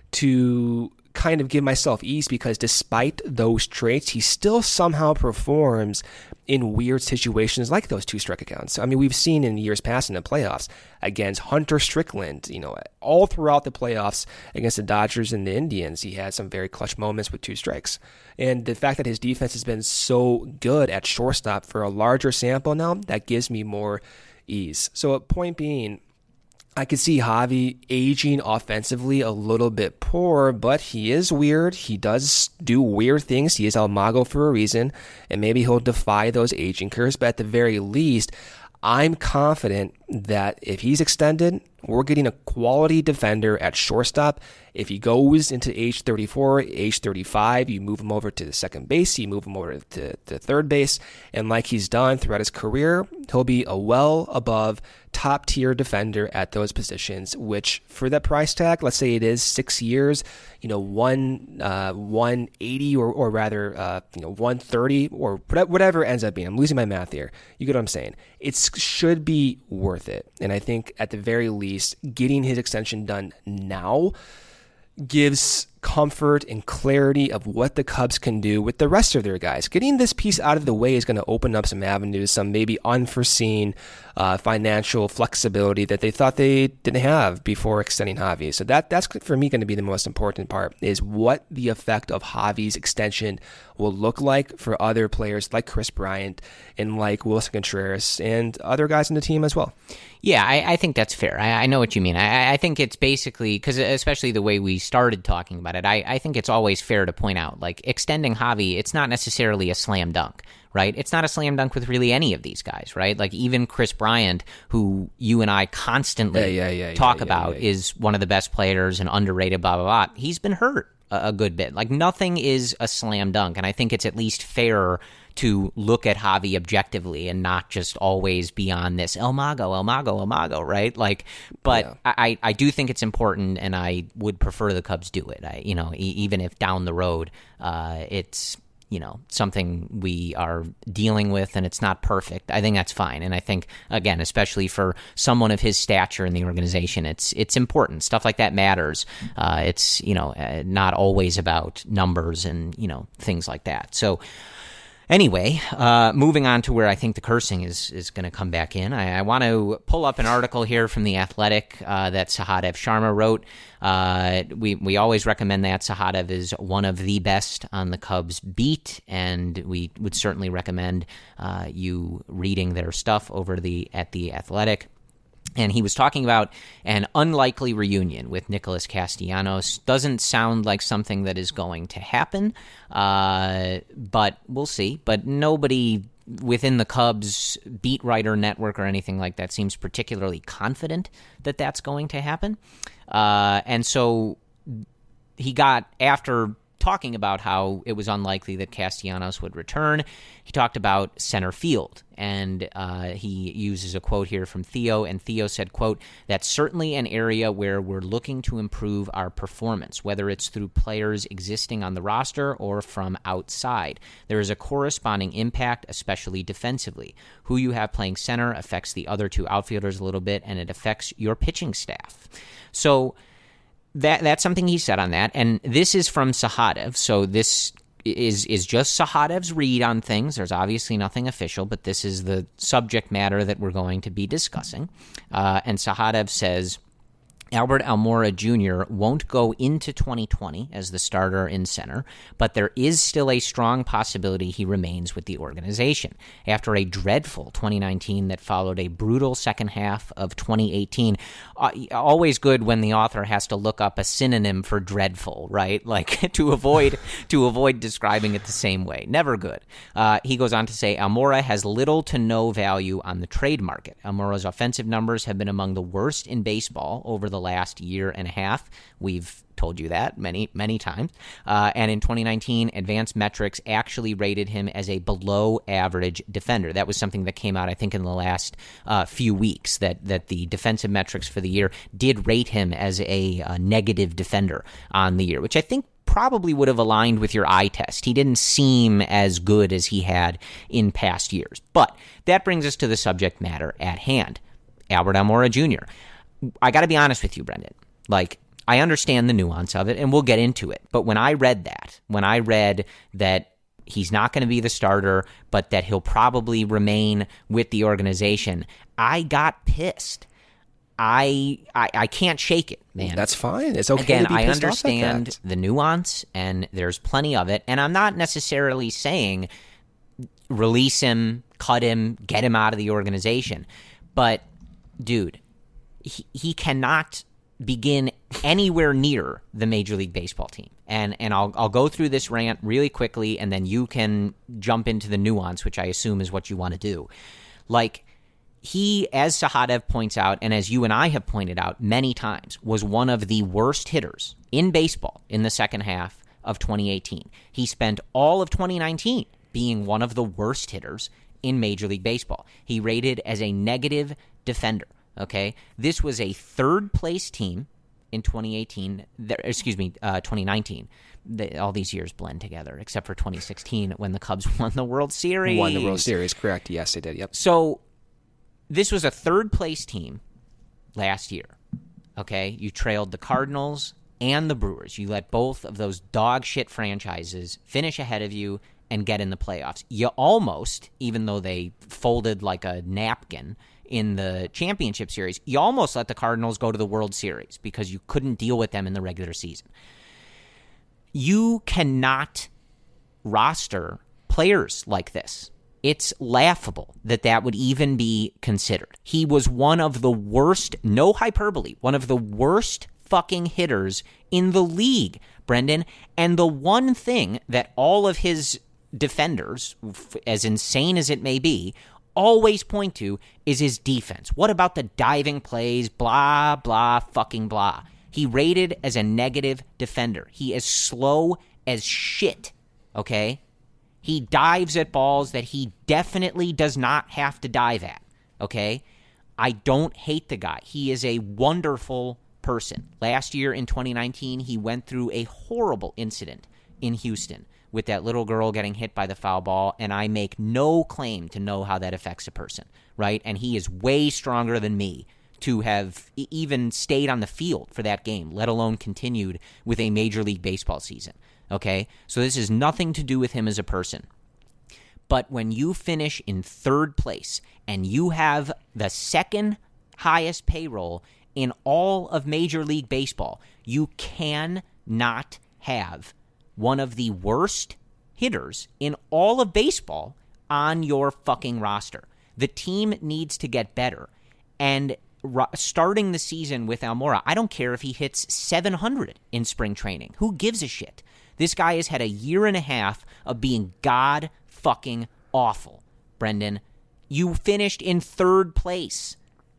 to kind of give myself ease, because despite those traits, he still somehow performs in weird situations like those 2 strike accounts. I mean, we've seen in years past in the playoffs against Hunter Strickland, all throughout the playoffs against the Dodgers and the Indians, he had some very clutch moments with 2 strikes. And the fact that his defense has been so good at shortstop for a larger sample now, that gives me more ease. So a point being, I could see Javi aging offensively a little bit poor, but he is weird. He does do weird things. He is El Mago for a reason, and maybe he'll defy those aging curves. But at the very least, I'm confident that if he's extended, we're getting a quality defender at shortstop. If he goes into age 34, age 35, you move him over to the second base, you move him over to third base, and like he's done throughout his career, he'll be a well above top-tier defender at those positions, which for that price tag, let's say it is 6 years, 180 or rather 130 or whatever it ends up being. I'm losing my math here. You get what I'm saying? It should be worth it. And I think at the very least, getting his extension done now gives comfort and clarity of what the Cubs can do with the rest of their guys. Getting this piece out of the way is going to open up some avenues, some maybe unforeseen financial flexibility that they thought they didn't have before extending Javi. So that's for me going to be the most important part, is what the effect of Javi's extension will look like for other players like Chris Bryant and like Wilson Contreras and other guys in the team as well. Yeah, I think that's fair. I know what you mean. I think it's basically, because especially the way we started talking about about it, I think it's always fair to point out, like, extending Javi, it's not necessarily a slam dunk, right? It's not a slam dunk with really any of these guys, right? Like, even Chris Bryant, who you and I constantly talk about, is one of the best players and underrated, blah, blah, blah. He's been hurt a good bit. Like, nothing is a slam dunk, and I think it's at least fair to look at Javi objectively and not just always be on this El Mago, right? Like, but yeah. I do think it's important, and I would prefer the Cubs do it. Even if down the road it's something we are dealing with and it's not perfect, I think that's fine. And I think, again, especially for someone of his stature in the organization, it's important. Stuff like that matters. It's not always about numbers and things like that. So anyway, moving on to where I think the cursing is going to come back in. I want to pull up an article here from The Athletic that Sahadev Sharma wrote. We always recommend that. Sahadev is one of the best on the Cubs beat, and we would certainly recommend you reading their stuff over at The Athletic. And he was talking about an unlikely reunion with Nicholas Castellanos. Doesn't sound like something that is going to happen, but we'll see. But nobody within the Cubs beat writer network or anything like that seems particularly confident that that's going to happen. And so he got, after talking about how it was unlikely that Castellanos would return, he talked about center field, and he uses a quote here from Theo, and Theo said, quote, "That's certainly an area where we're looking to improve our performance, whether it's through players existing on the roster or from outside. There is a corresponding impact, especially defensively. Who you have playing center affects the other two outfielders a little bit, and it affects your pitching staff." So that's something he said on that, and this is from Sahadev, so this is just Sahadev's read on things. There's obviously nothing official, but this is the subject matter that we're going to be discussing. And Sahadev says, Albert Almora Jr. won't go into 2020 as the starter in center, but there is still a strong possibility he remains with the organization. After a dreadful 2019 that followed a brutal second half of 2018, always good when the author has to look up a synonym for dreadful, right? Like to avoid describing it the same way. Never good. He goes on to say, Almora has little to no value on the trade market. Almora's offensive numbers have been among the worst in baseball over the last year and a half. We've told you that many, many times. And in 2019, Advanced Metrics actually rated him as a below-average defender. That was something that came out, I think, in the last few weeks, that the defensive metrics for the year did rate him as a negative defender on the year, which I think probably would have aligned with your eye test. He didn't seem as good as he had in past years. But that brings us to the subject matter at hand. Albert Almora Jr. I got to be honest with you, Brendan. Like, I understand the nuance of it, and we'll get into it. But when I read that he's not going to be the starter, but that he'll probably remain with the organization, I got pissed. I can't shake it, man. That's fine. It's okay. Again, to be I pissed understand off at that. the nuance, and there's plenty of it. And I'm not necessarily saying release him, cut him, get him out of the organization. But, dude, he cannot begin anywhere near the Major League Baseball team. And I'll go through this rant really quickly, and then you can jump into the nuance, which I assume is what you want to do. Like, he, as Sahadev points out, and as you and I have pointed out many times, was one of the worst hitters in baseball in the second half of 2018. He spent all of 2019 being one of the worst hitters in Major League Baseball. He rated as a negative defender. Okay, this was a third-place team in 2019. 2019. All these years blend together, except for 2016 when the Cubs won the World Series. Won the World Series, correct? Yes, they did. Yep. So this was a third-place team last year. Okay, you trailed the Cardinals and the Brewers. You let both of those dog shit franchises finish ahead of you and get in the playoffs. You almost, even though they folded like a napkin in the championship series, you almost let the Cardinals go to the World Series because you couldn't deal with them in the regular season. You cannot roster players like this. It's laughable that would even be considered. He was one of the worst, no hyperbole, one of the worst fucking hitters in the league, Brendan. And the one thing that all of his defenders, as insane as it may be, always point to is his defense. What about the diving plays? Blah, blah, fucking blah. He rated as a negative defender. He is slow as shit, okay? He dives at balls that he definitely does not have to dive at, okay? I don't hate the guy. He is a wonderful person. Last year in 2019, he went through a horrible incident in Houston with that little girl getting hit by the foul ball, and I make no claim to know how that affects a person, right? And he is way stronger than me to have even stayed on the field for that game, let alone continued with a Major League Baseball season, okay? So this has nothing to do with him as a person. But when you finish in third place and you have the second highest payroll in all of Major League Baseball, you cannot have one of the worst hitters in all of baseball on your fucking roster. The team needs to get better. And starting the season with Almora, I don't care if he hits 700 in spring training. Who gives a shit? This guy has had a year and a half of being god fucking awful. Brendan, you finished in third place.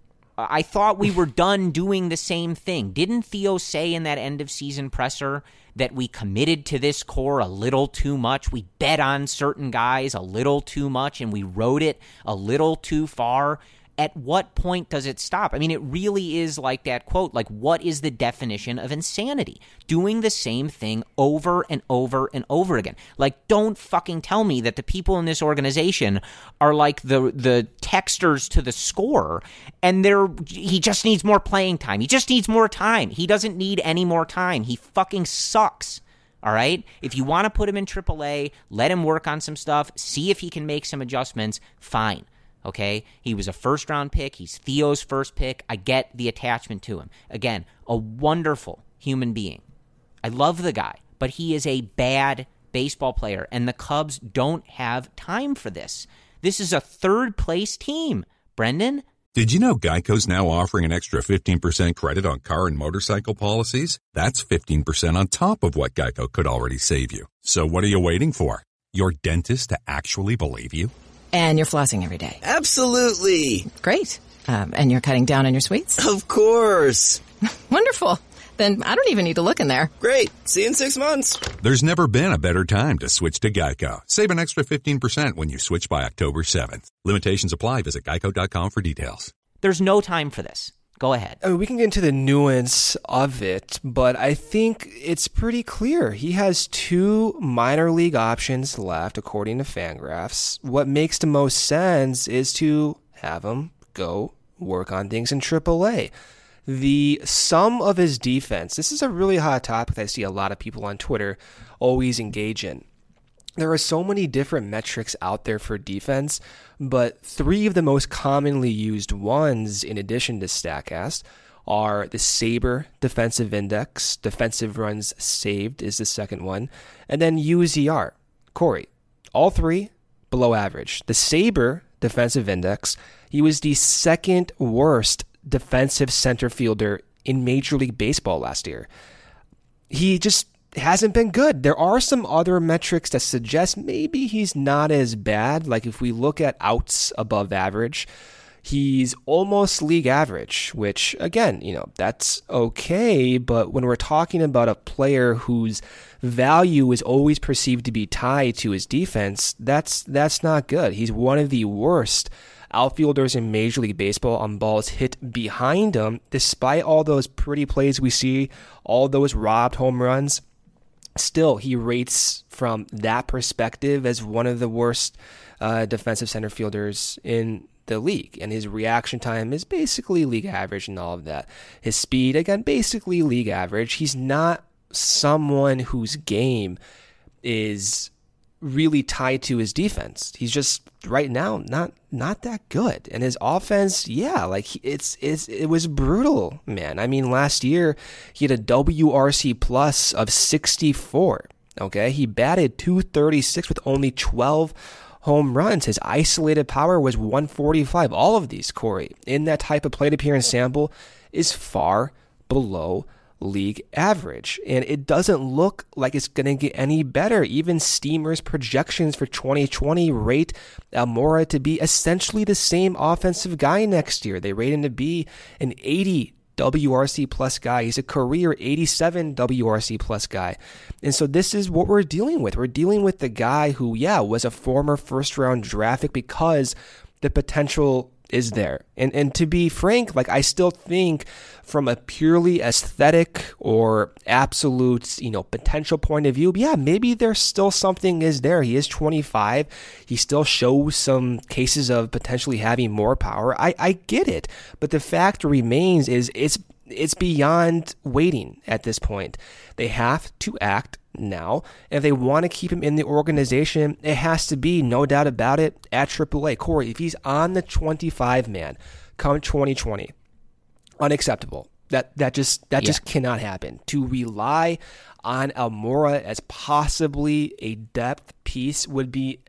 I thought we were done doing the same thing. Didn't Theo say in that end of season presser that we committed to this core a little too much? We bet on certain guys a little too much and we rode it a little too far. At what point does it stop? I mean, it really is like that quote, like, what is the definition of insanity? Doing the same thing over and over and over again. Like, don't fucking tell me that the people in this organization are like the texters to the scorer, and he just needs more playing time. He just needs more time. He doesn't need any more time. He fucking sucks. All right? If you want to put him in AAA, let him work on some stuff, see if he can make some adjustments, fine. Okay, he was a first-round pick. He's Theo's first pick. I get the attachment to him. Again, a wonderful human being. I love the guy, but he is a bad baseball player, and the Cubs don't have time for this. This is a third-place team, Brendan. Did you know Geico's now offering an extra 15% credit on car and motorcycle policies? That's 15% on top of what Geico could already save you. So what are you waiting for? Your dentist to actually believe you? And you're flossing every day. Absolutely. Great. And you're cutting down on your sweets? Of course. Wonderful. Then I don't even need to look in there. Great. See you in 6 months. There's never been a better time to switch to Geico. Save an extra 15% when you switch by October 7th. Limitations apply. Visit geico.com for details. There's no time for this. Go ahead. I mean, we can get into the nuance of it, but I think it's pretty clear. He has 2 minor league options left, according to Fangraphs. What makes the most sense is to have him go work on things in AAA. The sum of his defense, this is a really hot topic that I see a lot of people on Twitter always engage in. There are so many different metrics out there for defense, but 3 of the most commonly used ones, in addition to StatCast, are the SABR defensive index, defensive runs saved is the second one, and then UZR. Corey, all 3 below average. The SABR defensive index, he was the second worst defensive center fielder in Major League Baseball last year. He just hasn't been good. There are some other metrics that suggest maybe he's not as bad. Like if we look at outs above average, he's almost league average, which again, that's okay. But when we're talking about a player whose value is always perceived to be tied to his defense, that's not good. He's one of the worst outfielders in Major League Baseball on balls hit behind him, despite all those pretty plays we see, all those robbed home runs. Still, he rates from that perspective as one of the worst defensive center fielders in the league. And his reaction time is basically league average and all of that. His speed, again, basically league average. He's not someone whose game is really tied to his defense. He's just right now not that good. And his offense, it was brutal, man. I mean, last year he had a WRC plus of 64. Okay, he batted .236 with only 12 home runs. His isolated power was 145. All of these, Corey, in that type of plate appearance sample, is far below league average. And it doesn't look like it's going to get any better. Even Steamer's projections for 2020 rate Almora to be essentially the same offensive guy next year. They rate him to be an 80 WRC plus guy. He's a career 87 WRC plus guy. And so this is what we're dealing with. We're dealing with the guy who, was a former first round draft pick because the potential is there. And to be frank, I still think from a purely aesthetic or absolute, potential point of view, maybe there's still something is there. He is 25. He still shows some cases of potentially having more power. I get it. But the fact remains is it's beyond waiting at this point. They have to act now. If they want to keep him in the organization, it has to be, no doubt about it, at AAA. Corey, if he's on the 25-man come 2020, unacceptable. That just cannot happen. To rely on Almora as possibly a depth piece would be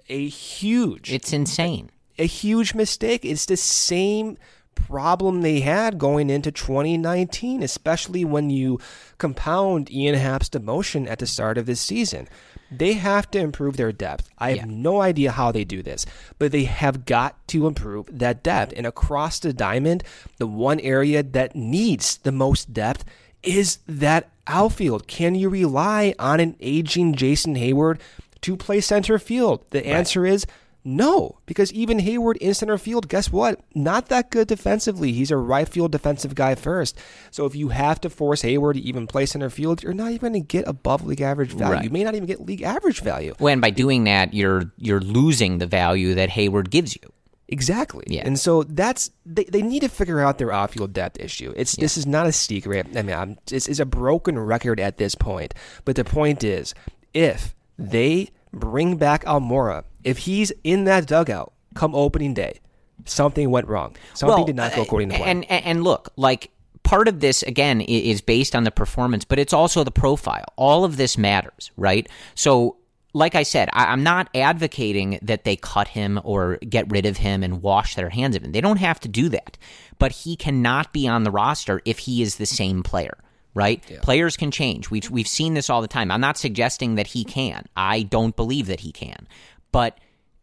It's insane. A huge mistake. It's the same problem they had going into 2019, especially when you compound Ian Happ's demotion at the start of this season. They have to improve their depth. I have no idea how they do this, but they have got to improve that depth. And across the diamond, the one area that needs the most depth is that outfield. Can you rely on an aging Jason Heyward to play center field? The answer is no, because even Heyward in center field, guess what? Not that good defensively. He's a right field defensive guy first. So if you have to force Heyward to even play center field, you're not even going to get above league average value. Right. You may not even get league average value. When by doing that, you're losing the value that Heyward gives you. Exactly. Yeah. And so they need to figure out their outfield depth issue. This is not a secret. I mean, it's a broken record at this point. But the point is, if they bring back Almora, if he's in that dugout come opening day, something went wrong. Something did not go according to plan. And look, part of this, again, is based on the performance, but it's also the profile. All of this matters, right? So, like I said, I'm not advocating that they cut him or get rid of him and wash their hands of him. They don't have to do that. But he cannot be on the roster if he is the same player. Right? Yeah. Players can change. We've seen this all the time. I'm not suggesting that he can. I don't believe that he can. But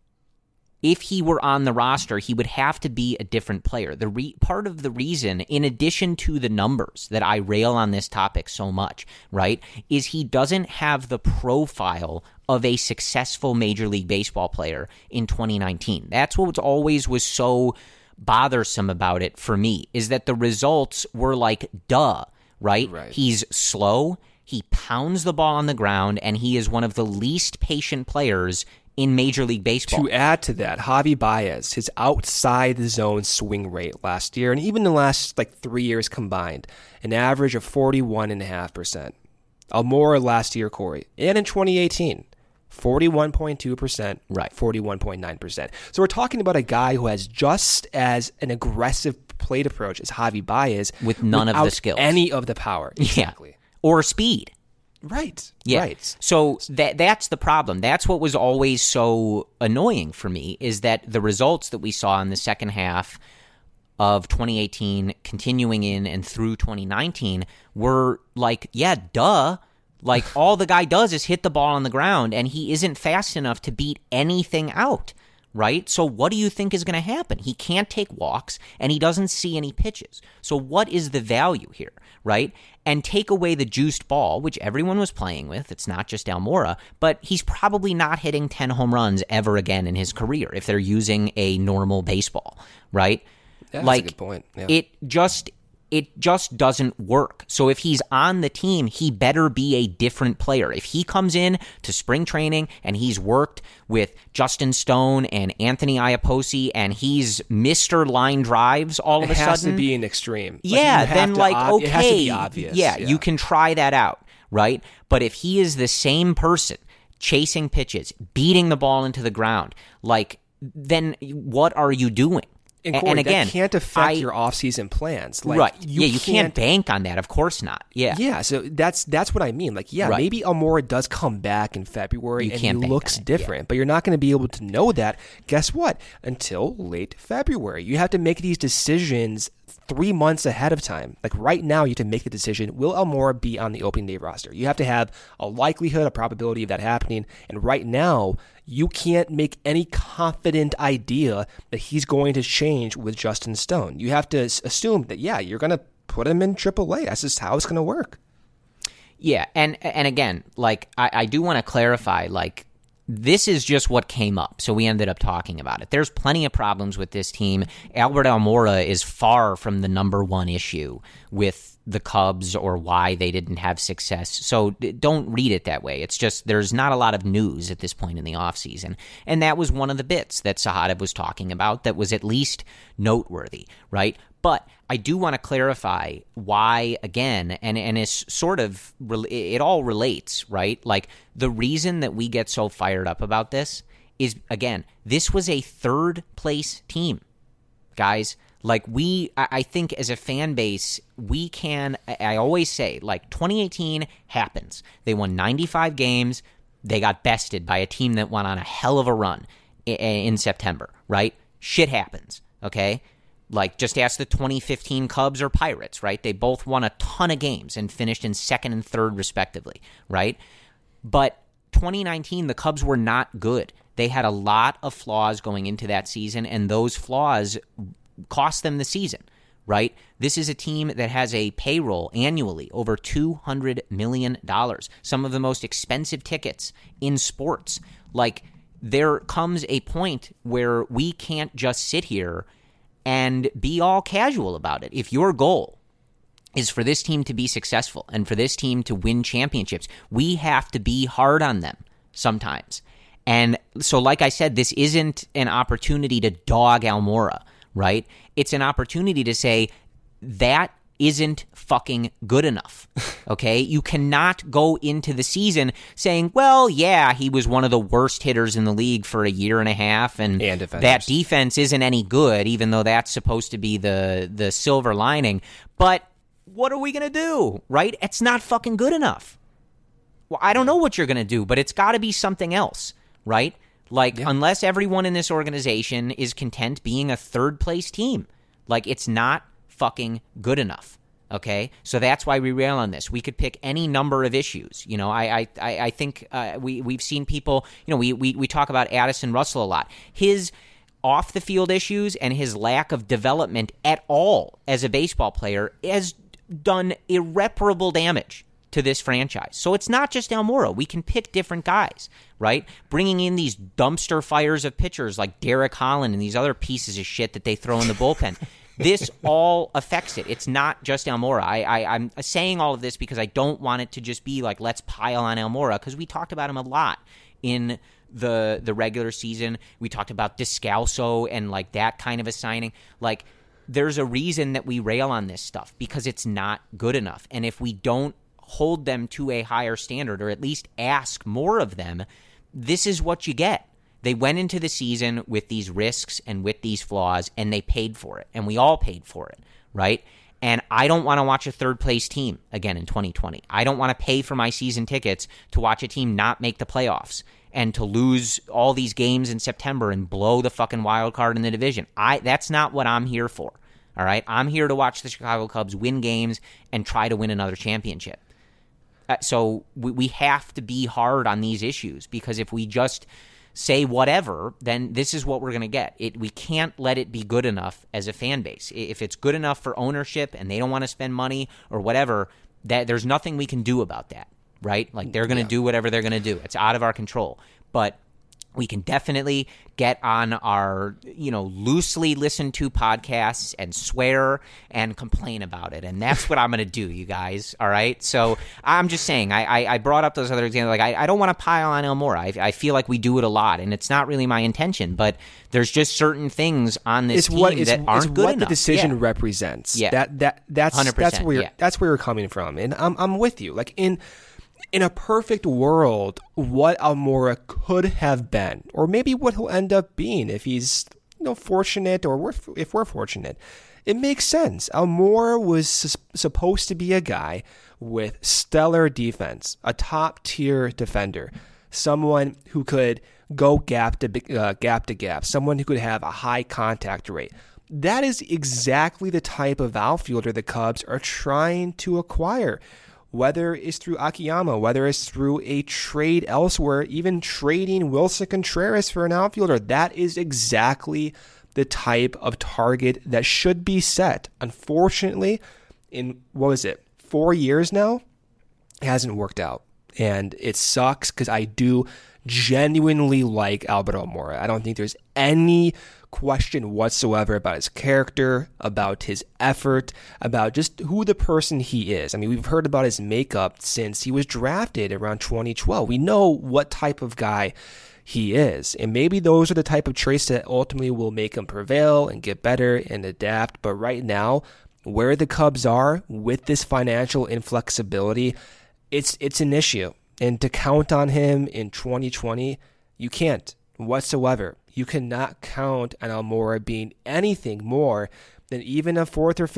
if he were on the roster, he would have to be a different player. Part of the reason, in addition to the numbers that I rail on this topic so much, right, is he doesn't have the profile of a successful Major League Baseball player in 2019. That's what always was so bothersome about it for me, is that the results were duh. Right? He's slow, he pounds the ball on the ground, and he is one of the least patient players in Major League Baseball. To add to that, Javi Baez, his outside the zone swing rate last year, and even the last 3 years combined, an average of 41.5%. Almora last year, Corey, and in 2018, 41.2%, 41.9%. So we're talking about a guy who has just as an aggressive plate approach as Javi Baez, with none of the skills, any of the power, exactly, or speed. Right. Yeah. Right. So that's the problem. That's what was always so annoying for me, is that the results that we saw in the second half of 2018, continuing in and through 2019, were duh. All the guy does is hit the ball on the ground, and he isn't fast enough to beat anything out. Right? So what do you think is going to happen? He can't take walks, and he doesn't see any pitches. So what is the value here, right? And take away the juiced ball, which everyone was playing with. It's not just Almora, but he's probably not hitting 10 home runs ever again in his career if they're using a normal baseball, right? Yeah, that's a good point. Yeah. It just doesn't work. So if he's on the team, he better be a different player. If he comes in to spring training and he's worked with Justin Stone and Anthony Iapoce and he's Mr. Line Drives all of a sudden. It has to be an extreme. Yeah, then okay. It has to be obvious. Yeah, you can try that out, right? But if he is the same person, chasing pitches, beating the ball into the ground, then what are you doing? And again, that can't affect your off-season plans. Right. You can't bank on that. Of course not. Yeah. Yeah, so that's what I mean. Maybe Almora does come back in February and he looks different, but you're not going to be able to know that, guess what, until late February. You have to make these decisions 3 months ahead of time. Like right now, you have to make the decision, will Almora be on the opening day roster? You have to have a likelihood, a probability of that happening. And right now, you can't make any confident idea that he's going to change with Justin Stone. You have to assume that, yeah, you're going to put him in AAA. That's just how it's going to work. Yeah, and again, like, I do want to clarify, like, this is just what came up, so we ended up talking about it. There's plenty of problems with this team. Albert Almora is far from the number one issue with the Cubs or why they didn't have success, so don't read it that way. It's just there's not a lot of news at this point in the offseason, and that was one of the bits that Sahadev was talking about that was at least noteworthy, right? But I do want to clarify why, again, and it's sort of, it all relates, right? Like, the reason that we get so fired up about this is, again, this was a third-place team, guys. Like, I think as a fan base, we can, I always say, like, 2018 happens. They won 95 games. They got bested by a team that went on a hell of a run in September, right? Shit happens, okay? Like, just ask the 2015 Cubs or Pirates, right? They both won a ton of games and finished in second and third, respectively, right? But 2019, the Cubs were not good. They had a lot of flaws going into that season, and those flaws cost them the season, right? This is a team that has a payroll annually over $200 million, some of the most expensive tickets in sports. Like, there comes a point where we can't just sit here and be all casual about it. If your goal is for this team to be successful and for this team to win championships, we have to be hard on them sometimes. And so, like I said, this isn't an opportunity to dog Almora, right? It's an opportunity to say that isn't fucking good enough, okay? You cannot go into the season saying, well, yeah, he was one of the worst hitters in the league for a year and a half, and that defense isn't any good, even though that's supposed to be the silver lining. But what are we going to do, right? It's not fucking good enough. Well, I don't know what you're going to do, but it's got to be something else, right? Like, unless everyone in this organization is content being a third-place team, like, it's not fucking good enough, okay? So that's why we rail on this. We could pick any number of issues. You know, I think we've seen people, you know, we talk about Addison Russell a lot. His off-the-field issues and his lack of development at all as a baseball player has done irreparable damage to this franchise. So it's not just Almora. We can pick different guys, right? Bringing in these dumpster fires of pitchers like Derek Holland and these other pieces of shit that they throw in the bullpen. This all affects it. It's not just Almora. I'm saying all of this because I don't want it to just be like, let's pile on Almora, because we talked about him a lot in the regular season. We talked about Descalso and like that kind of a signing. Like, there's a reason that we rail on this stuff, because it's not good enough. And if we don't hold them to a higher standard, or at least ask more of them, this is what you get. They went into the season with these risks and with these flaws, and they paid for it, and we all paid for it, right? And I don't want to watch a third-place team again in 2020. I don't want to pay for my season tickets to watch a team not make the playoffs and to lose all these games in September and blow the fucking wild card in the division. That's not what I'm here for, all right? I'm here to watch the Chicago Cubs win games and try to win another championship. So we have to be hard on these issues, because if we just say whatever, then this is what we're going to get. We can't let it be good enough as a fan base. If it's good enough for ownership and they don't want to spend money or whatever, that there's nothing we can do about that, right? Like, they're going to do whatever they're going to do. It's out of our control. But we can definitely get on our, loosely listened to podcasts and swear and complain about it. And that's what I'm going to do, you guys. All right. So I'm just saying, I brought up those other examples. Like, I don't want to pile on Almora. I feel like we do it a lot, and it's not really my intention, but there's just certain things on this team that aren't good enough. What the decision represents. Yeah. That's 100%, that's where you're coming from. And I'm with you. Like, in a perfect world, what Almora could have been, or maybe what he'll end up being if he's fortunate, or if we're fortunate, it makes sense. Almora was supposed to be a guy with stellar defense, a top-tier defender, someone who could go gap to gap, someone who could have a high contact rate. that is exactly the type of outfielder the Cubs are trying to acquire. Whether it's through Akiyama, whether it's through a trade elsewhere, even trading Wilson Contreras for an outfielder, that is exactly the type of target that should be set. Unfortunately, in, 4 years now, it hasn't worked out. And it sucks because I do genuinely like Albert Almora. I don't think there's any question whatsoever about his character, about his effort, about just who the person he is. I mean, we've heard about his makeup since he was drafted around 2012. We know what type of guy he is. And maybe those are the type of traits that ultimately will make him prevail and get better and adapt. But right now, where the Cubs are with this financial inflexibility, it's an issue. And to count on him in 2020, you can't whatsoever. You cannot count on Almora being anything more than even a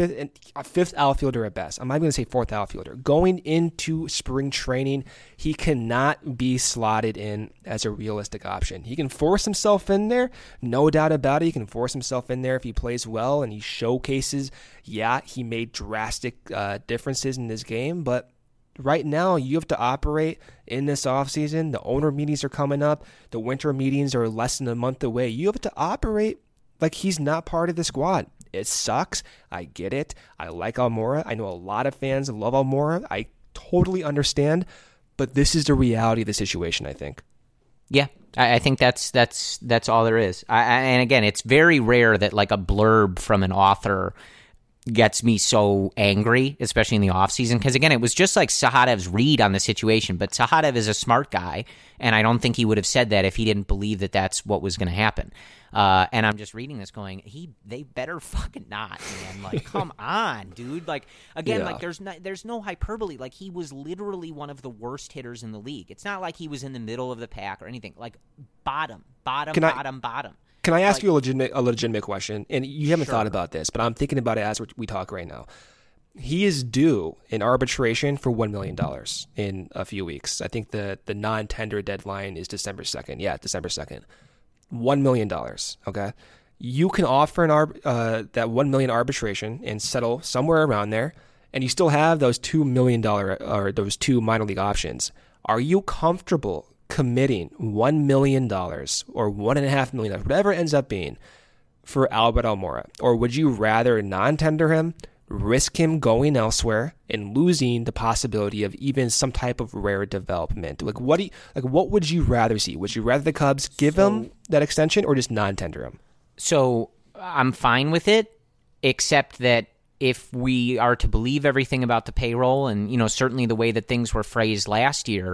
fifth outfielder at best. I'm not going to say fourth outfielder. Going into spring training, he cannot be slotted in as a realistic option. He can force himself in there, no doubt about it. He can force himself in there if he plays well and he showcases, he made drastic differences in this game, but right now, you have to operate in this offseason. The owner meetings are coming up. The winter meetings are less than a month away. You have to operate like he's not part of the squad. It sucks. I get it. I like Almora. I know a lot of fans love Almora. I totally understand. But this is the reality of the situation, I think. Yeah, I think that's all there is. And again, it's very rare that like a blurb from an author gets me so angry, especially in the offseason, because again, it was just like Sahadev's read on the situation, but Sahadev is a smart guy, and I don't think he would have said that if he didn't believe that that's what was going to happen. And I'm just reading this going, they better fucking not, man. Like, come on, dude. Like, again, like there's no hyperbole. Like, he was literally one of the worst hitters in the league. It's not like he was in the middle of the pack or anything. Like, bottom. Can I ask you a legitimate question? And you haven't thought about this, but I'm thinking about it as we talk right now. He is due in arbitration for $1 million in a few weeks. I think the non-tender deadline is December 2nd. Yeah, December 2nd. $1 million, okay? You can offer that $1 million arbitration and settle somewhere around there, and you still have those $2 million or those two minor league options. Are you comfortable committing $1 million or $1.5 million, whatever it ends up being, for Albert Almora? Or would you rather non-tender him, risk him going elsewhere and losing the possibility of even some type of rare development? Like, what would you rather see? Would you rather the Cubs give him that extension or just non-tender him? So I'm fine with it, except that if we are to believe everything about the payroll and, certainly the way that things were phrased last year,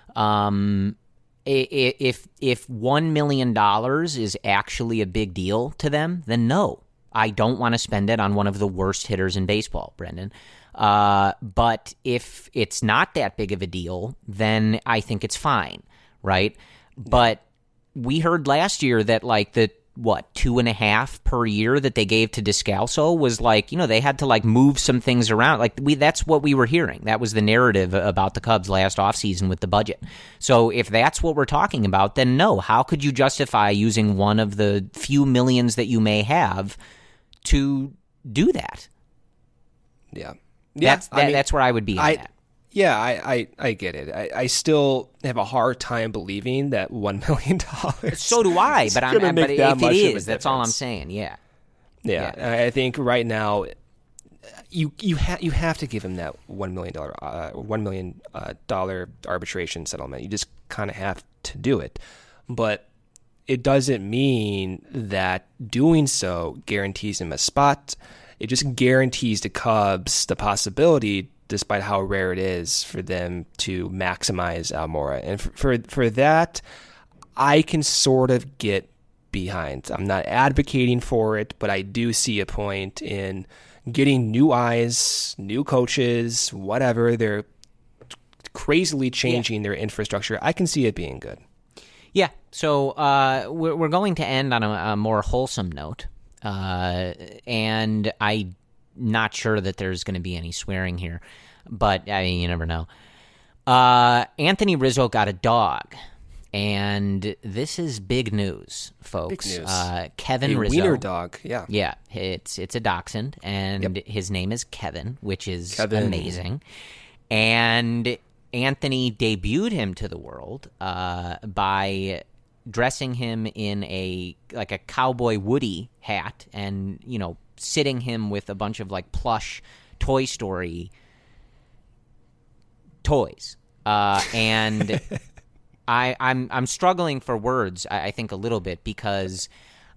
if $1 million is actually a big deal to them, then no, I don't want to spend it on one of the worst hitters in baseball, Brendan. But if it's not that big of a deal, then I think it's fine, right? But we heard last year that like the 2.5 per year that they gave to Descalso was like, they had to like move some things around. Like that's what we were hearing. That was the narrative about the Cubs last offseason with the budget. So if that's what we're talking about, then no, how could you justify using one of the few millions that you may have to do that? Yeah. That's where I would be on that. Yeah, I get it. I still have a hard time believing that $1 million. So do I, but if it is, that's all I'm saying. Yeah. I think right now you have to give him that $1 million arbitration settlement. You just kind of have to do it, but it doesn't mean that doing so guarantees him a spot. It just guarantees the Cubs the possibility, despite how rare it is, for them to maximize Almora. And for that, I can sort of get behind. I'm not advocating for it, but I do see a point in getting new eyes, new coaches, whatever. They're crazily changing their infrastructure. I can see it being good. Yeah, so we're going to end on a more wholesome note, and I'm not sure that there's going to be any swearing here, but I mean, you never know. Anthony Rizzo got a dog, And this is big news, folks. Big news. Kevin a Rizzo. wiener dog, yeah. Yeah, it's a dachshund, and his name is Kevin, which is amazing. And Anthony debuted him to the world by dressing him in a Cowboy Woody hat and, sitting him with a bunch of plush Toy Story toys. And I'm struggling for words, I think, a little bit, because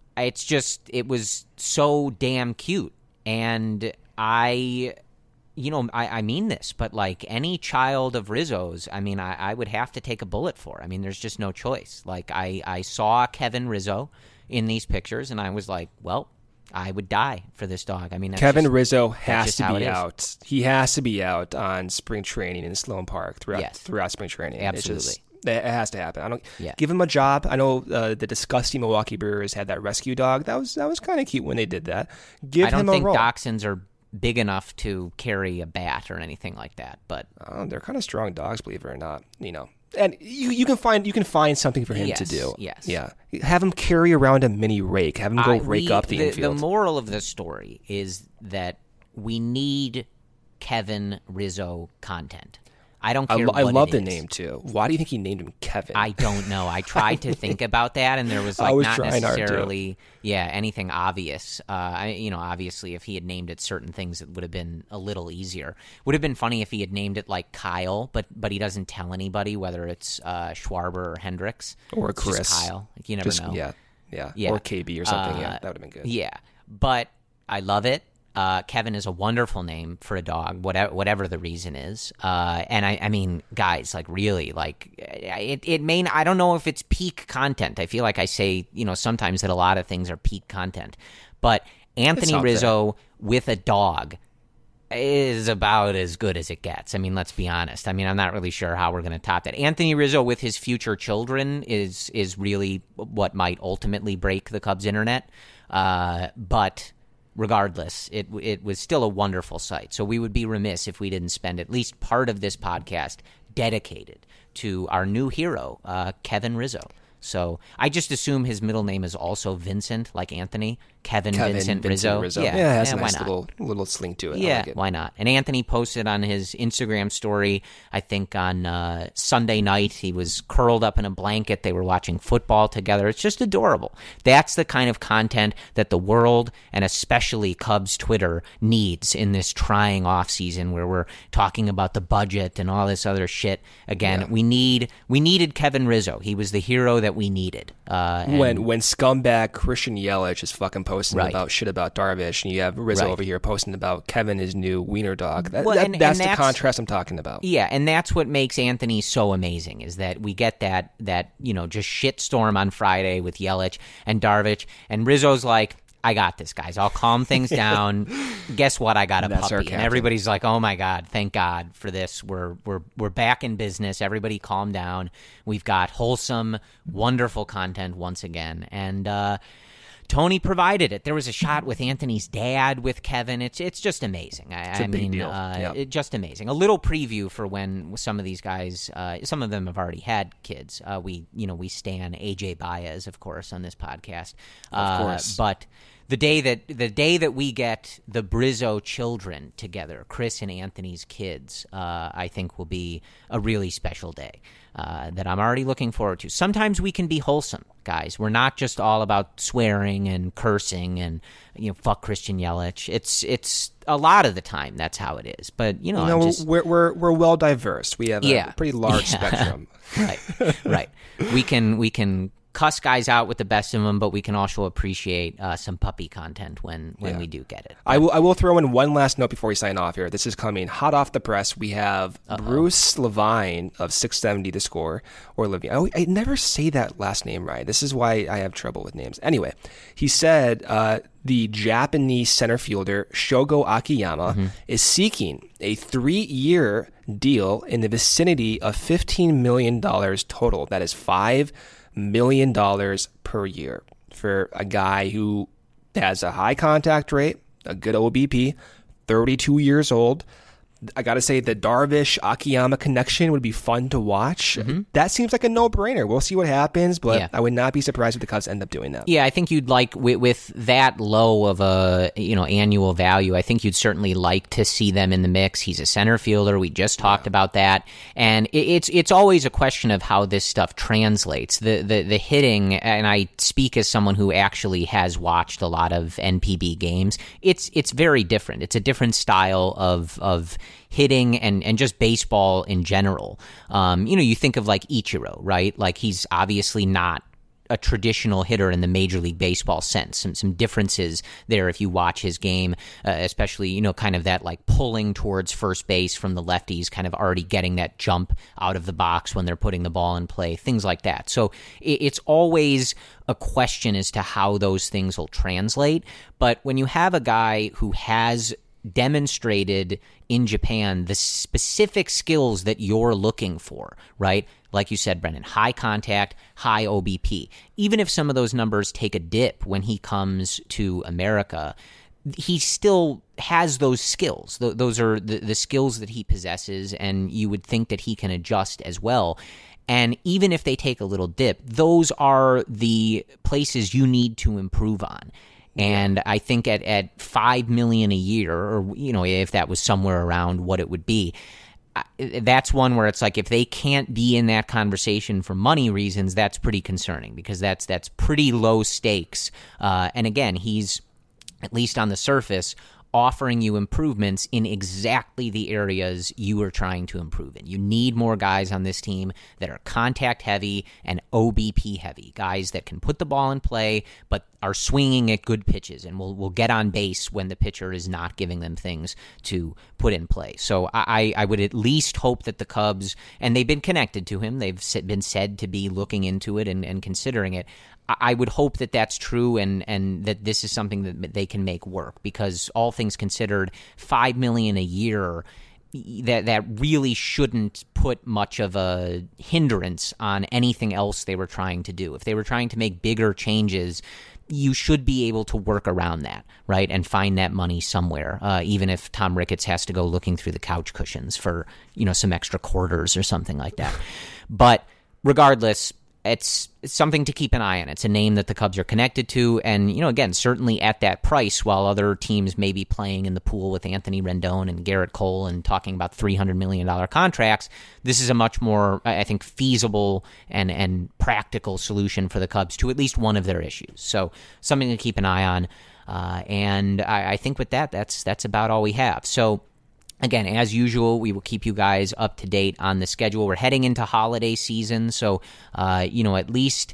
it was so damn cute. And I mean this, but any child of Rizzo's, I would have to take a bullet for. There's just no choice. I saw Kevin Rizzo in these pictures, and I was like, well, I would die for this dog. Kevin Rizzo has to be out. He has to be out on spring training in Sloan Park throughout spring training. Absolutely. It has to happen. Give him a job. I know the disgusting Milwaukee Brewers had that rescue dog. That was kind of cute when they did that. I don't think dachshunds are big enough to carry a bat or anything like that, but they're kind of strong dogs, believe it or not. And you can find something for him to do. Yes. Yeah. Have him carry around a mini rake. Have him go rake up the infield. The moral of the story is that we need Kevin Rizzo content. I don't care. I love the name too. Why do you think he named him Kevin? I don't know. I tried to think about that, and there was not necessarily anything obvious. Obviously, if he had named it certain things, it would have been a little easier. Would have been funny if he had named it Kyle, but he doesn't tell anybody whether it's Schwarber or Hendricks or Chris. Just Kyle. You never know. Yeah. Or KB or something. That would have been good. Yeah, but I love it. Kevin is a wonderful name for a dog, whatever the reason is. And I mean, guys, really, it may. I don't know if it's peak content. I feel like I say, sometimes that a lot of things are peak content, but Anthony Rizzo with a dog is about as good as it gets. Let's be honest. I'm not really sure how we're going to top that. Anthony Rizzo with his future children is really what might ultimately break the Cubs internet. But regardless, it was still a wonderful sight. So we would be remiss if we didn't spend at least part of this podcast dedicated to our new hero, Kevin Rizzo. So I just assume his middle name is also Vincent, like Anthony. Kevin Vincent Rizzo. Yeah, it has a nice little sling to it. Yeah, I like it. Why not? And Anthony posted on his Instagram story, I think on Sunday night, he was curled up in a blanket. They were watching football together. It's just adorable. That's the kind of content that the world, and especially Cubs Twitter, needs in this trying offseason where we're talking about the budget and all this other shit. Again, we needed Kevin Rizzo. He was the hero that we needed. When scumbag Christian Yelich is fucking posting about shit about Darvish, and you have Rizzo over here posting about Kevin, his new wiener dog. That's the contrast I'm talking about. Yeah, and that's what makes Anthony so amazing, is that we get that just shitstorm on Friday with Yelich and Darvish, and Rizzo's like, I got this, guys. I'll calm things down. Guess what? I got a puppy. And everybody's like, oh my God, thank God for this. We're back in business. Everybody calm down. We've got wholesome, wonderful content once again. And Tony provided it. There was a shot with Anthony's dad with Kevin. It's just amazing. It's a big deal. Just amazing. A little preview for when some of these guys, some of them have already had kids. We stan AJ Baez, of course, on this podcast. Of course. But the day that we get the Brizzo children together, Chris and Anthony's kids, I think will be a really special day that I'm already looking forward to. Sometimes we can be wholesome, guys. We're not just all about swearing and cursing and fuck Christian Yelich. It's a lot of the time that's how it is. But we're well diverse. We have a pretty large spectrum. Right. We can cuss guys out with the best of them, but we can also appreciate some puppy content when we do get it. I will throw in one last note before we sign off here. This is coming hot off the press. We have Bruce Levine of 670 The Score, or Levine. I never say that last name right. This is why I have trouble with names. Anyway, he said the Japanese center fielder Shogo Akiyama is seeking a 3-year deal in the vicinity of $15 million total. That is $5 million per year for a guy who has a high contact rate, a good OBP, 32 years old, I got to say the Darvish-Akiyama connection would be fun to watch. That seems like a no-brainer. We'll see what happens, but I would not be surprised if the Cubs end up doing that. Yeah, I think you'd like, with that low of a annual value, I think you'd certainly like to see them in the mix. He's a center fielder. We just talked about that. And it's always a question of how this stuff translates. The hitting, and I speak as someone who actually has watched a lot of NPB games, it's very different. It's a different style of hitting and just baseball in general. You think of like Ichiro, right? Like he's obviously not a traditional hitter in the Major League Baseball sense. Some differences there if you watch his game, especially, kind of that like pulling towards first base from the lefties, kind of already getting that jump out of the box when they're putting the ball in play, things like that. So it's always a question as to how those things will translate. But when you have a guy who has demonstrated in Japan the specific skills that you're looking for, right? Like you said, Brendan, high contact, high OBP. Even if some of those numbers take a dip when he comes to America, he still has those skills. Those are the skills that he possesses, and you would think that he can adjust as well. And even if they take a little dip, those are the places you need to improve on. And I think at $5 million a year, or if that was somewhere around what it would be, that's one where it's like if they can't be in that conversation for money reasons, that's pretty concerning because that's pretty low stakes. And again, he's, at least on the surface, offering you improvements in exactly the areas you are trying to improve in. You need more guys on this team that are contact heavy and OBP heavy, guys that can put the ball in play but are swinging at good pitches and will get on base when the pitcher is not giving them things to put in play. So I would at least hope that the Cubs, and they've been connected to him, they've been said to be looking into it and considering it. I would hope that that's true and that this is something that they can make work because all things considered, $5 million a year, that really shouldn't put much of a hindrance on anything else they were trying to do. If they were trying to make bigger changes, you should be able to work around that, right, and find that money somewhere, even if Tom Ricketts has to go looking through the couch cushions for, some extra quarters or something like that. But regardless, it's something to keep an eye on. It's a name that the Cubs are connected to. And, again, certainly at that price, while other teams may be playing in the pool with Anthony Rendon and Garrett Cole and talking about $300 million contracts, this is a much more, I think, feasible and practical solution for the Cubs to at least one of their issues. So something to keep an eye on. And I think with that's about all we have. So, again, as usual, we will keep you guys up to date on the schedule. We're heading into holiday season, so, at least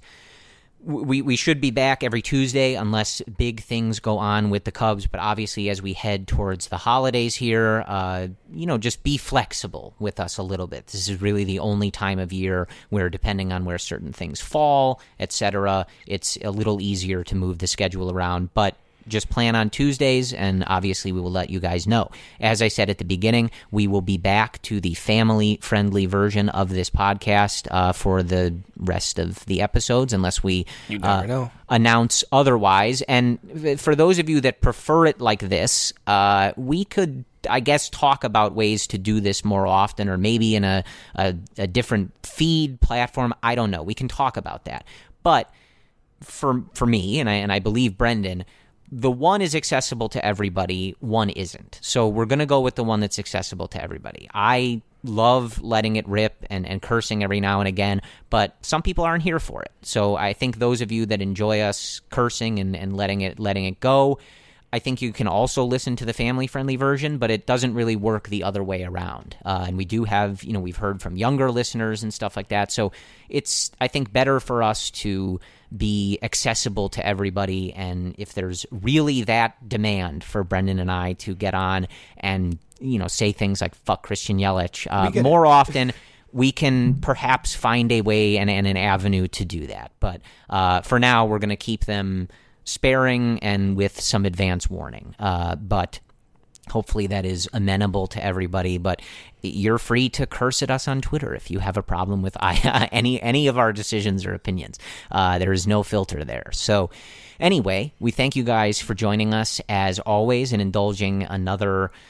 we should be back every Tuesday unless big things go on with the Cubs. But obviously, as we head towards the holidays here, just be flexible with us a little bit. This is really the only time of year where, depending on where certain things fall, etc., it's a little easier to move the schedule around. But just plan on Tuesdays, and obviously we will let you guys know. As I said at the beginning, we will be back to the family-friendly version of this podcast for the rest of the episodes, unless we announce otherwise. And for those of you that prefer it like this, we could, I guess, talk about ways to do this more often, or maybe in a different feed platform. I don't know. We can talk about that. But for me, and I believe Brendan, the one is accessible to everybody, one isn't. So we're going to go with the one that's accessible to everybody. I love letting it rip and cursing every now and again, but some people aren't here for it. So I think those of you that enjoy us cursing and letting it go, I think you can also listen to the family-friendly version, but it doesn't really work the other way around. And we do have, we've heard from younger listeners and stuff like that. So it's, I think, better for us to be accessible to everybody. And if there's really that demand for Brendan and I to get on and, say things like fuck Christian Yelich more often, we can perhaps find a way and an avenue to do that. But for now, we're going to keep them sparing and with some advance warning. But hopefully that is amenable to everybody. But you're free to curse at us on Twitter if you have a problem with any of our decisions or opinions. There is no filter there. So anyway, we thank you guys for joining us as always and indulging another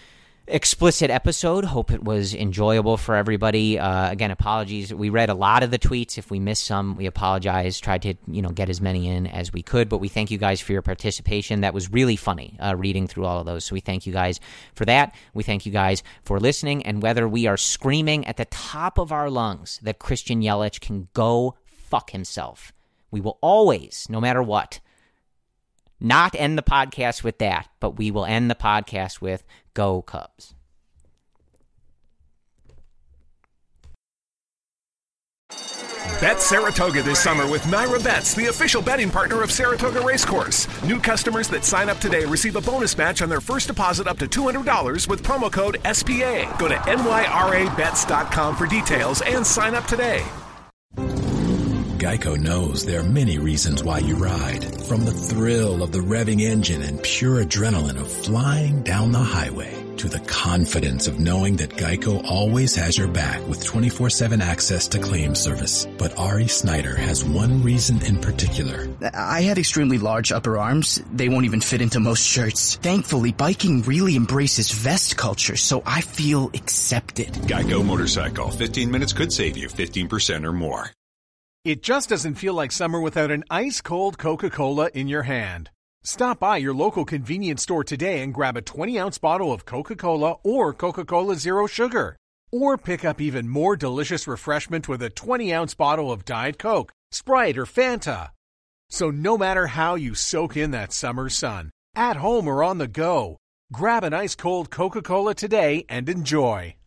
explicit episode. Hope it was enjoyable for everybody. Again, apologies. We read a lot of the tweets. If we missed some, we apologize. Tried to, get as many in as we could, but we thank you guys for your participation. That was really funny, reading through all of those. So we thank you guys for that. We thank you guys for listening. And whether we are screaming at the top of our lungs that Christian Yelich can go fuck himself, we will always, no matter what, not end the podcast with that, but we will end the podcast with Go Cubs. Bet Saratoga this summer with Naira Bets, the official betting partner of Saratoga Racecourse. New customers that sign up today receive a bonus match on their first deposit up to $200 with promo code SPA. Go to nyrabets.com for details and sign up today. Geico knows there are many reasons why you ride. From the thrill of the revving engine and pure adrenaline of flying down the highway, to the confidence of knowing that Geico always has your back with 24/7 access to claim service. But Ari Snyder has one reason in particular. I had extremely large upper arms. They won't even fit into most shirts. Thankfully, biking really embraces vest culture, so I feel accepted. Geico Motorcycle. 15 minutes could save you 15% or more. It just doesn't feel like summer without an ice-cold Coca-Cola in your hand. Stop by your local convenience store today and grab a 20-ounce bottle of Coca-Cola or Coca-Cola Zero Sugar. Or pick up even more delicious refreshment with a 20-ounce bottle of Diet Coke, Sprite, or Fanta. So no matter how you soak in that summer sun, at home or on the go, grab an ice-cold Coca-Cola today and enjoy.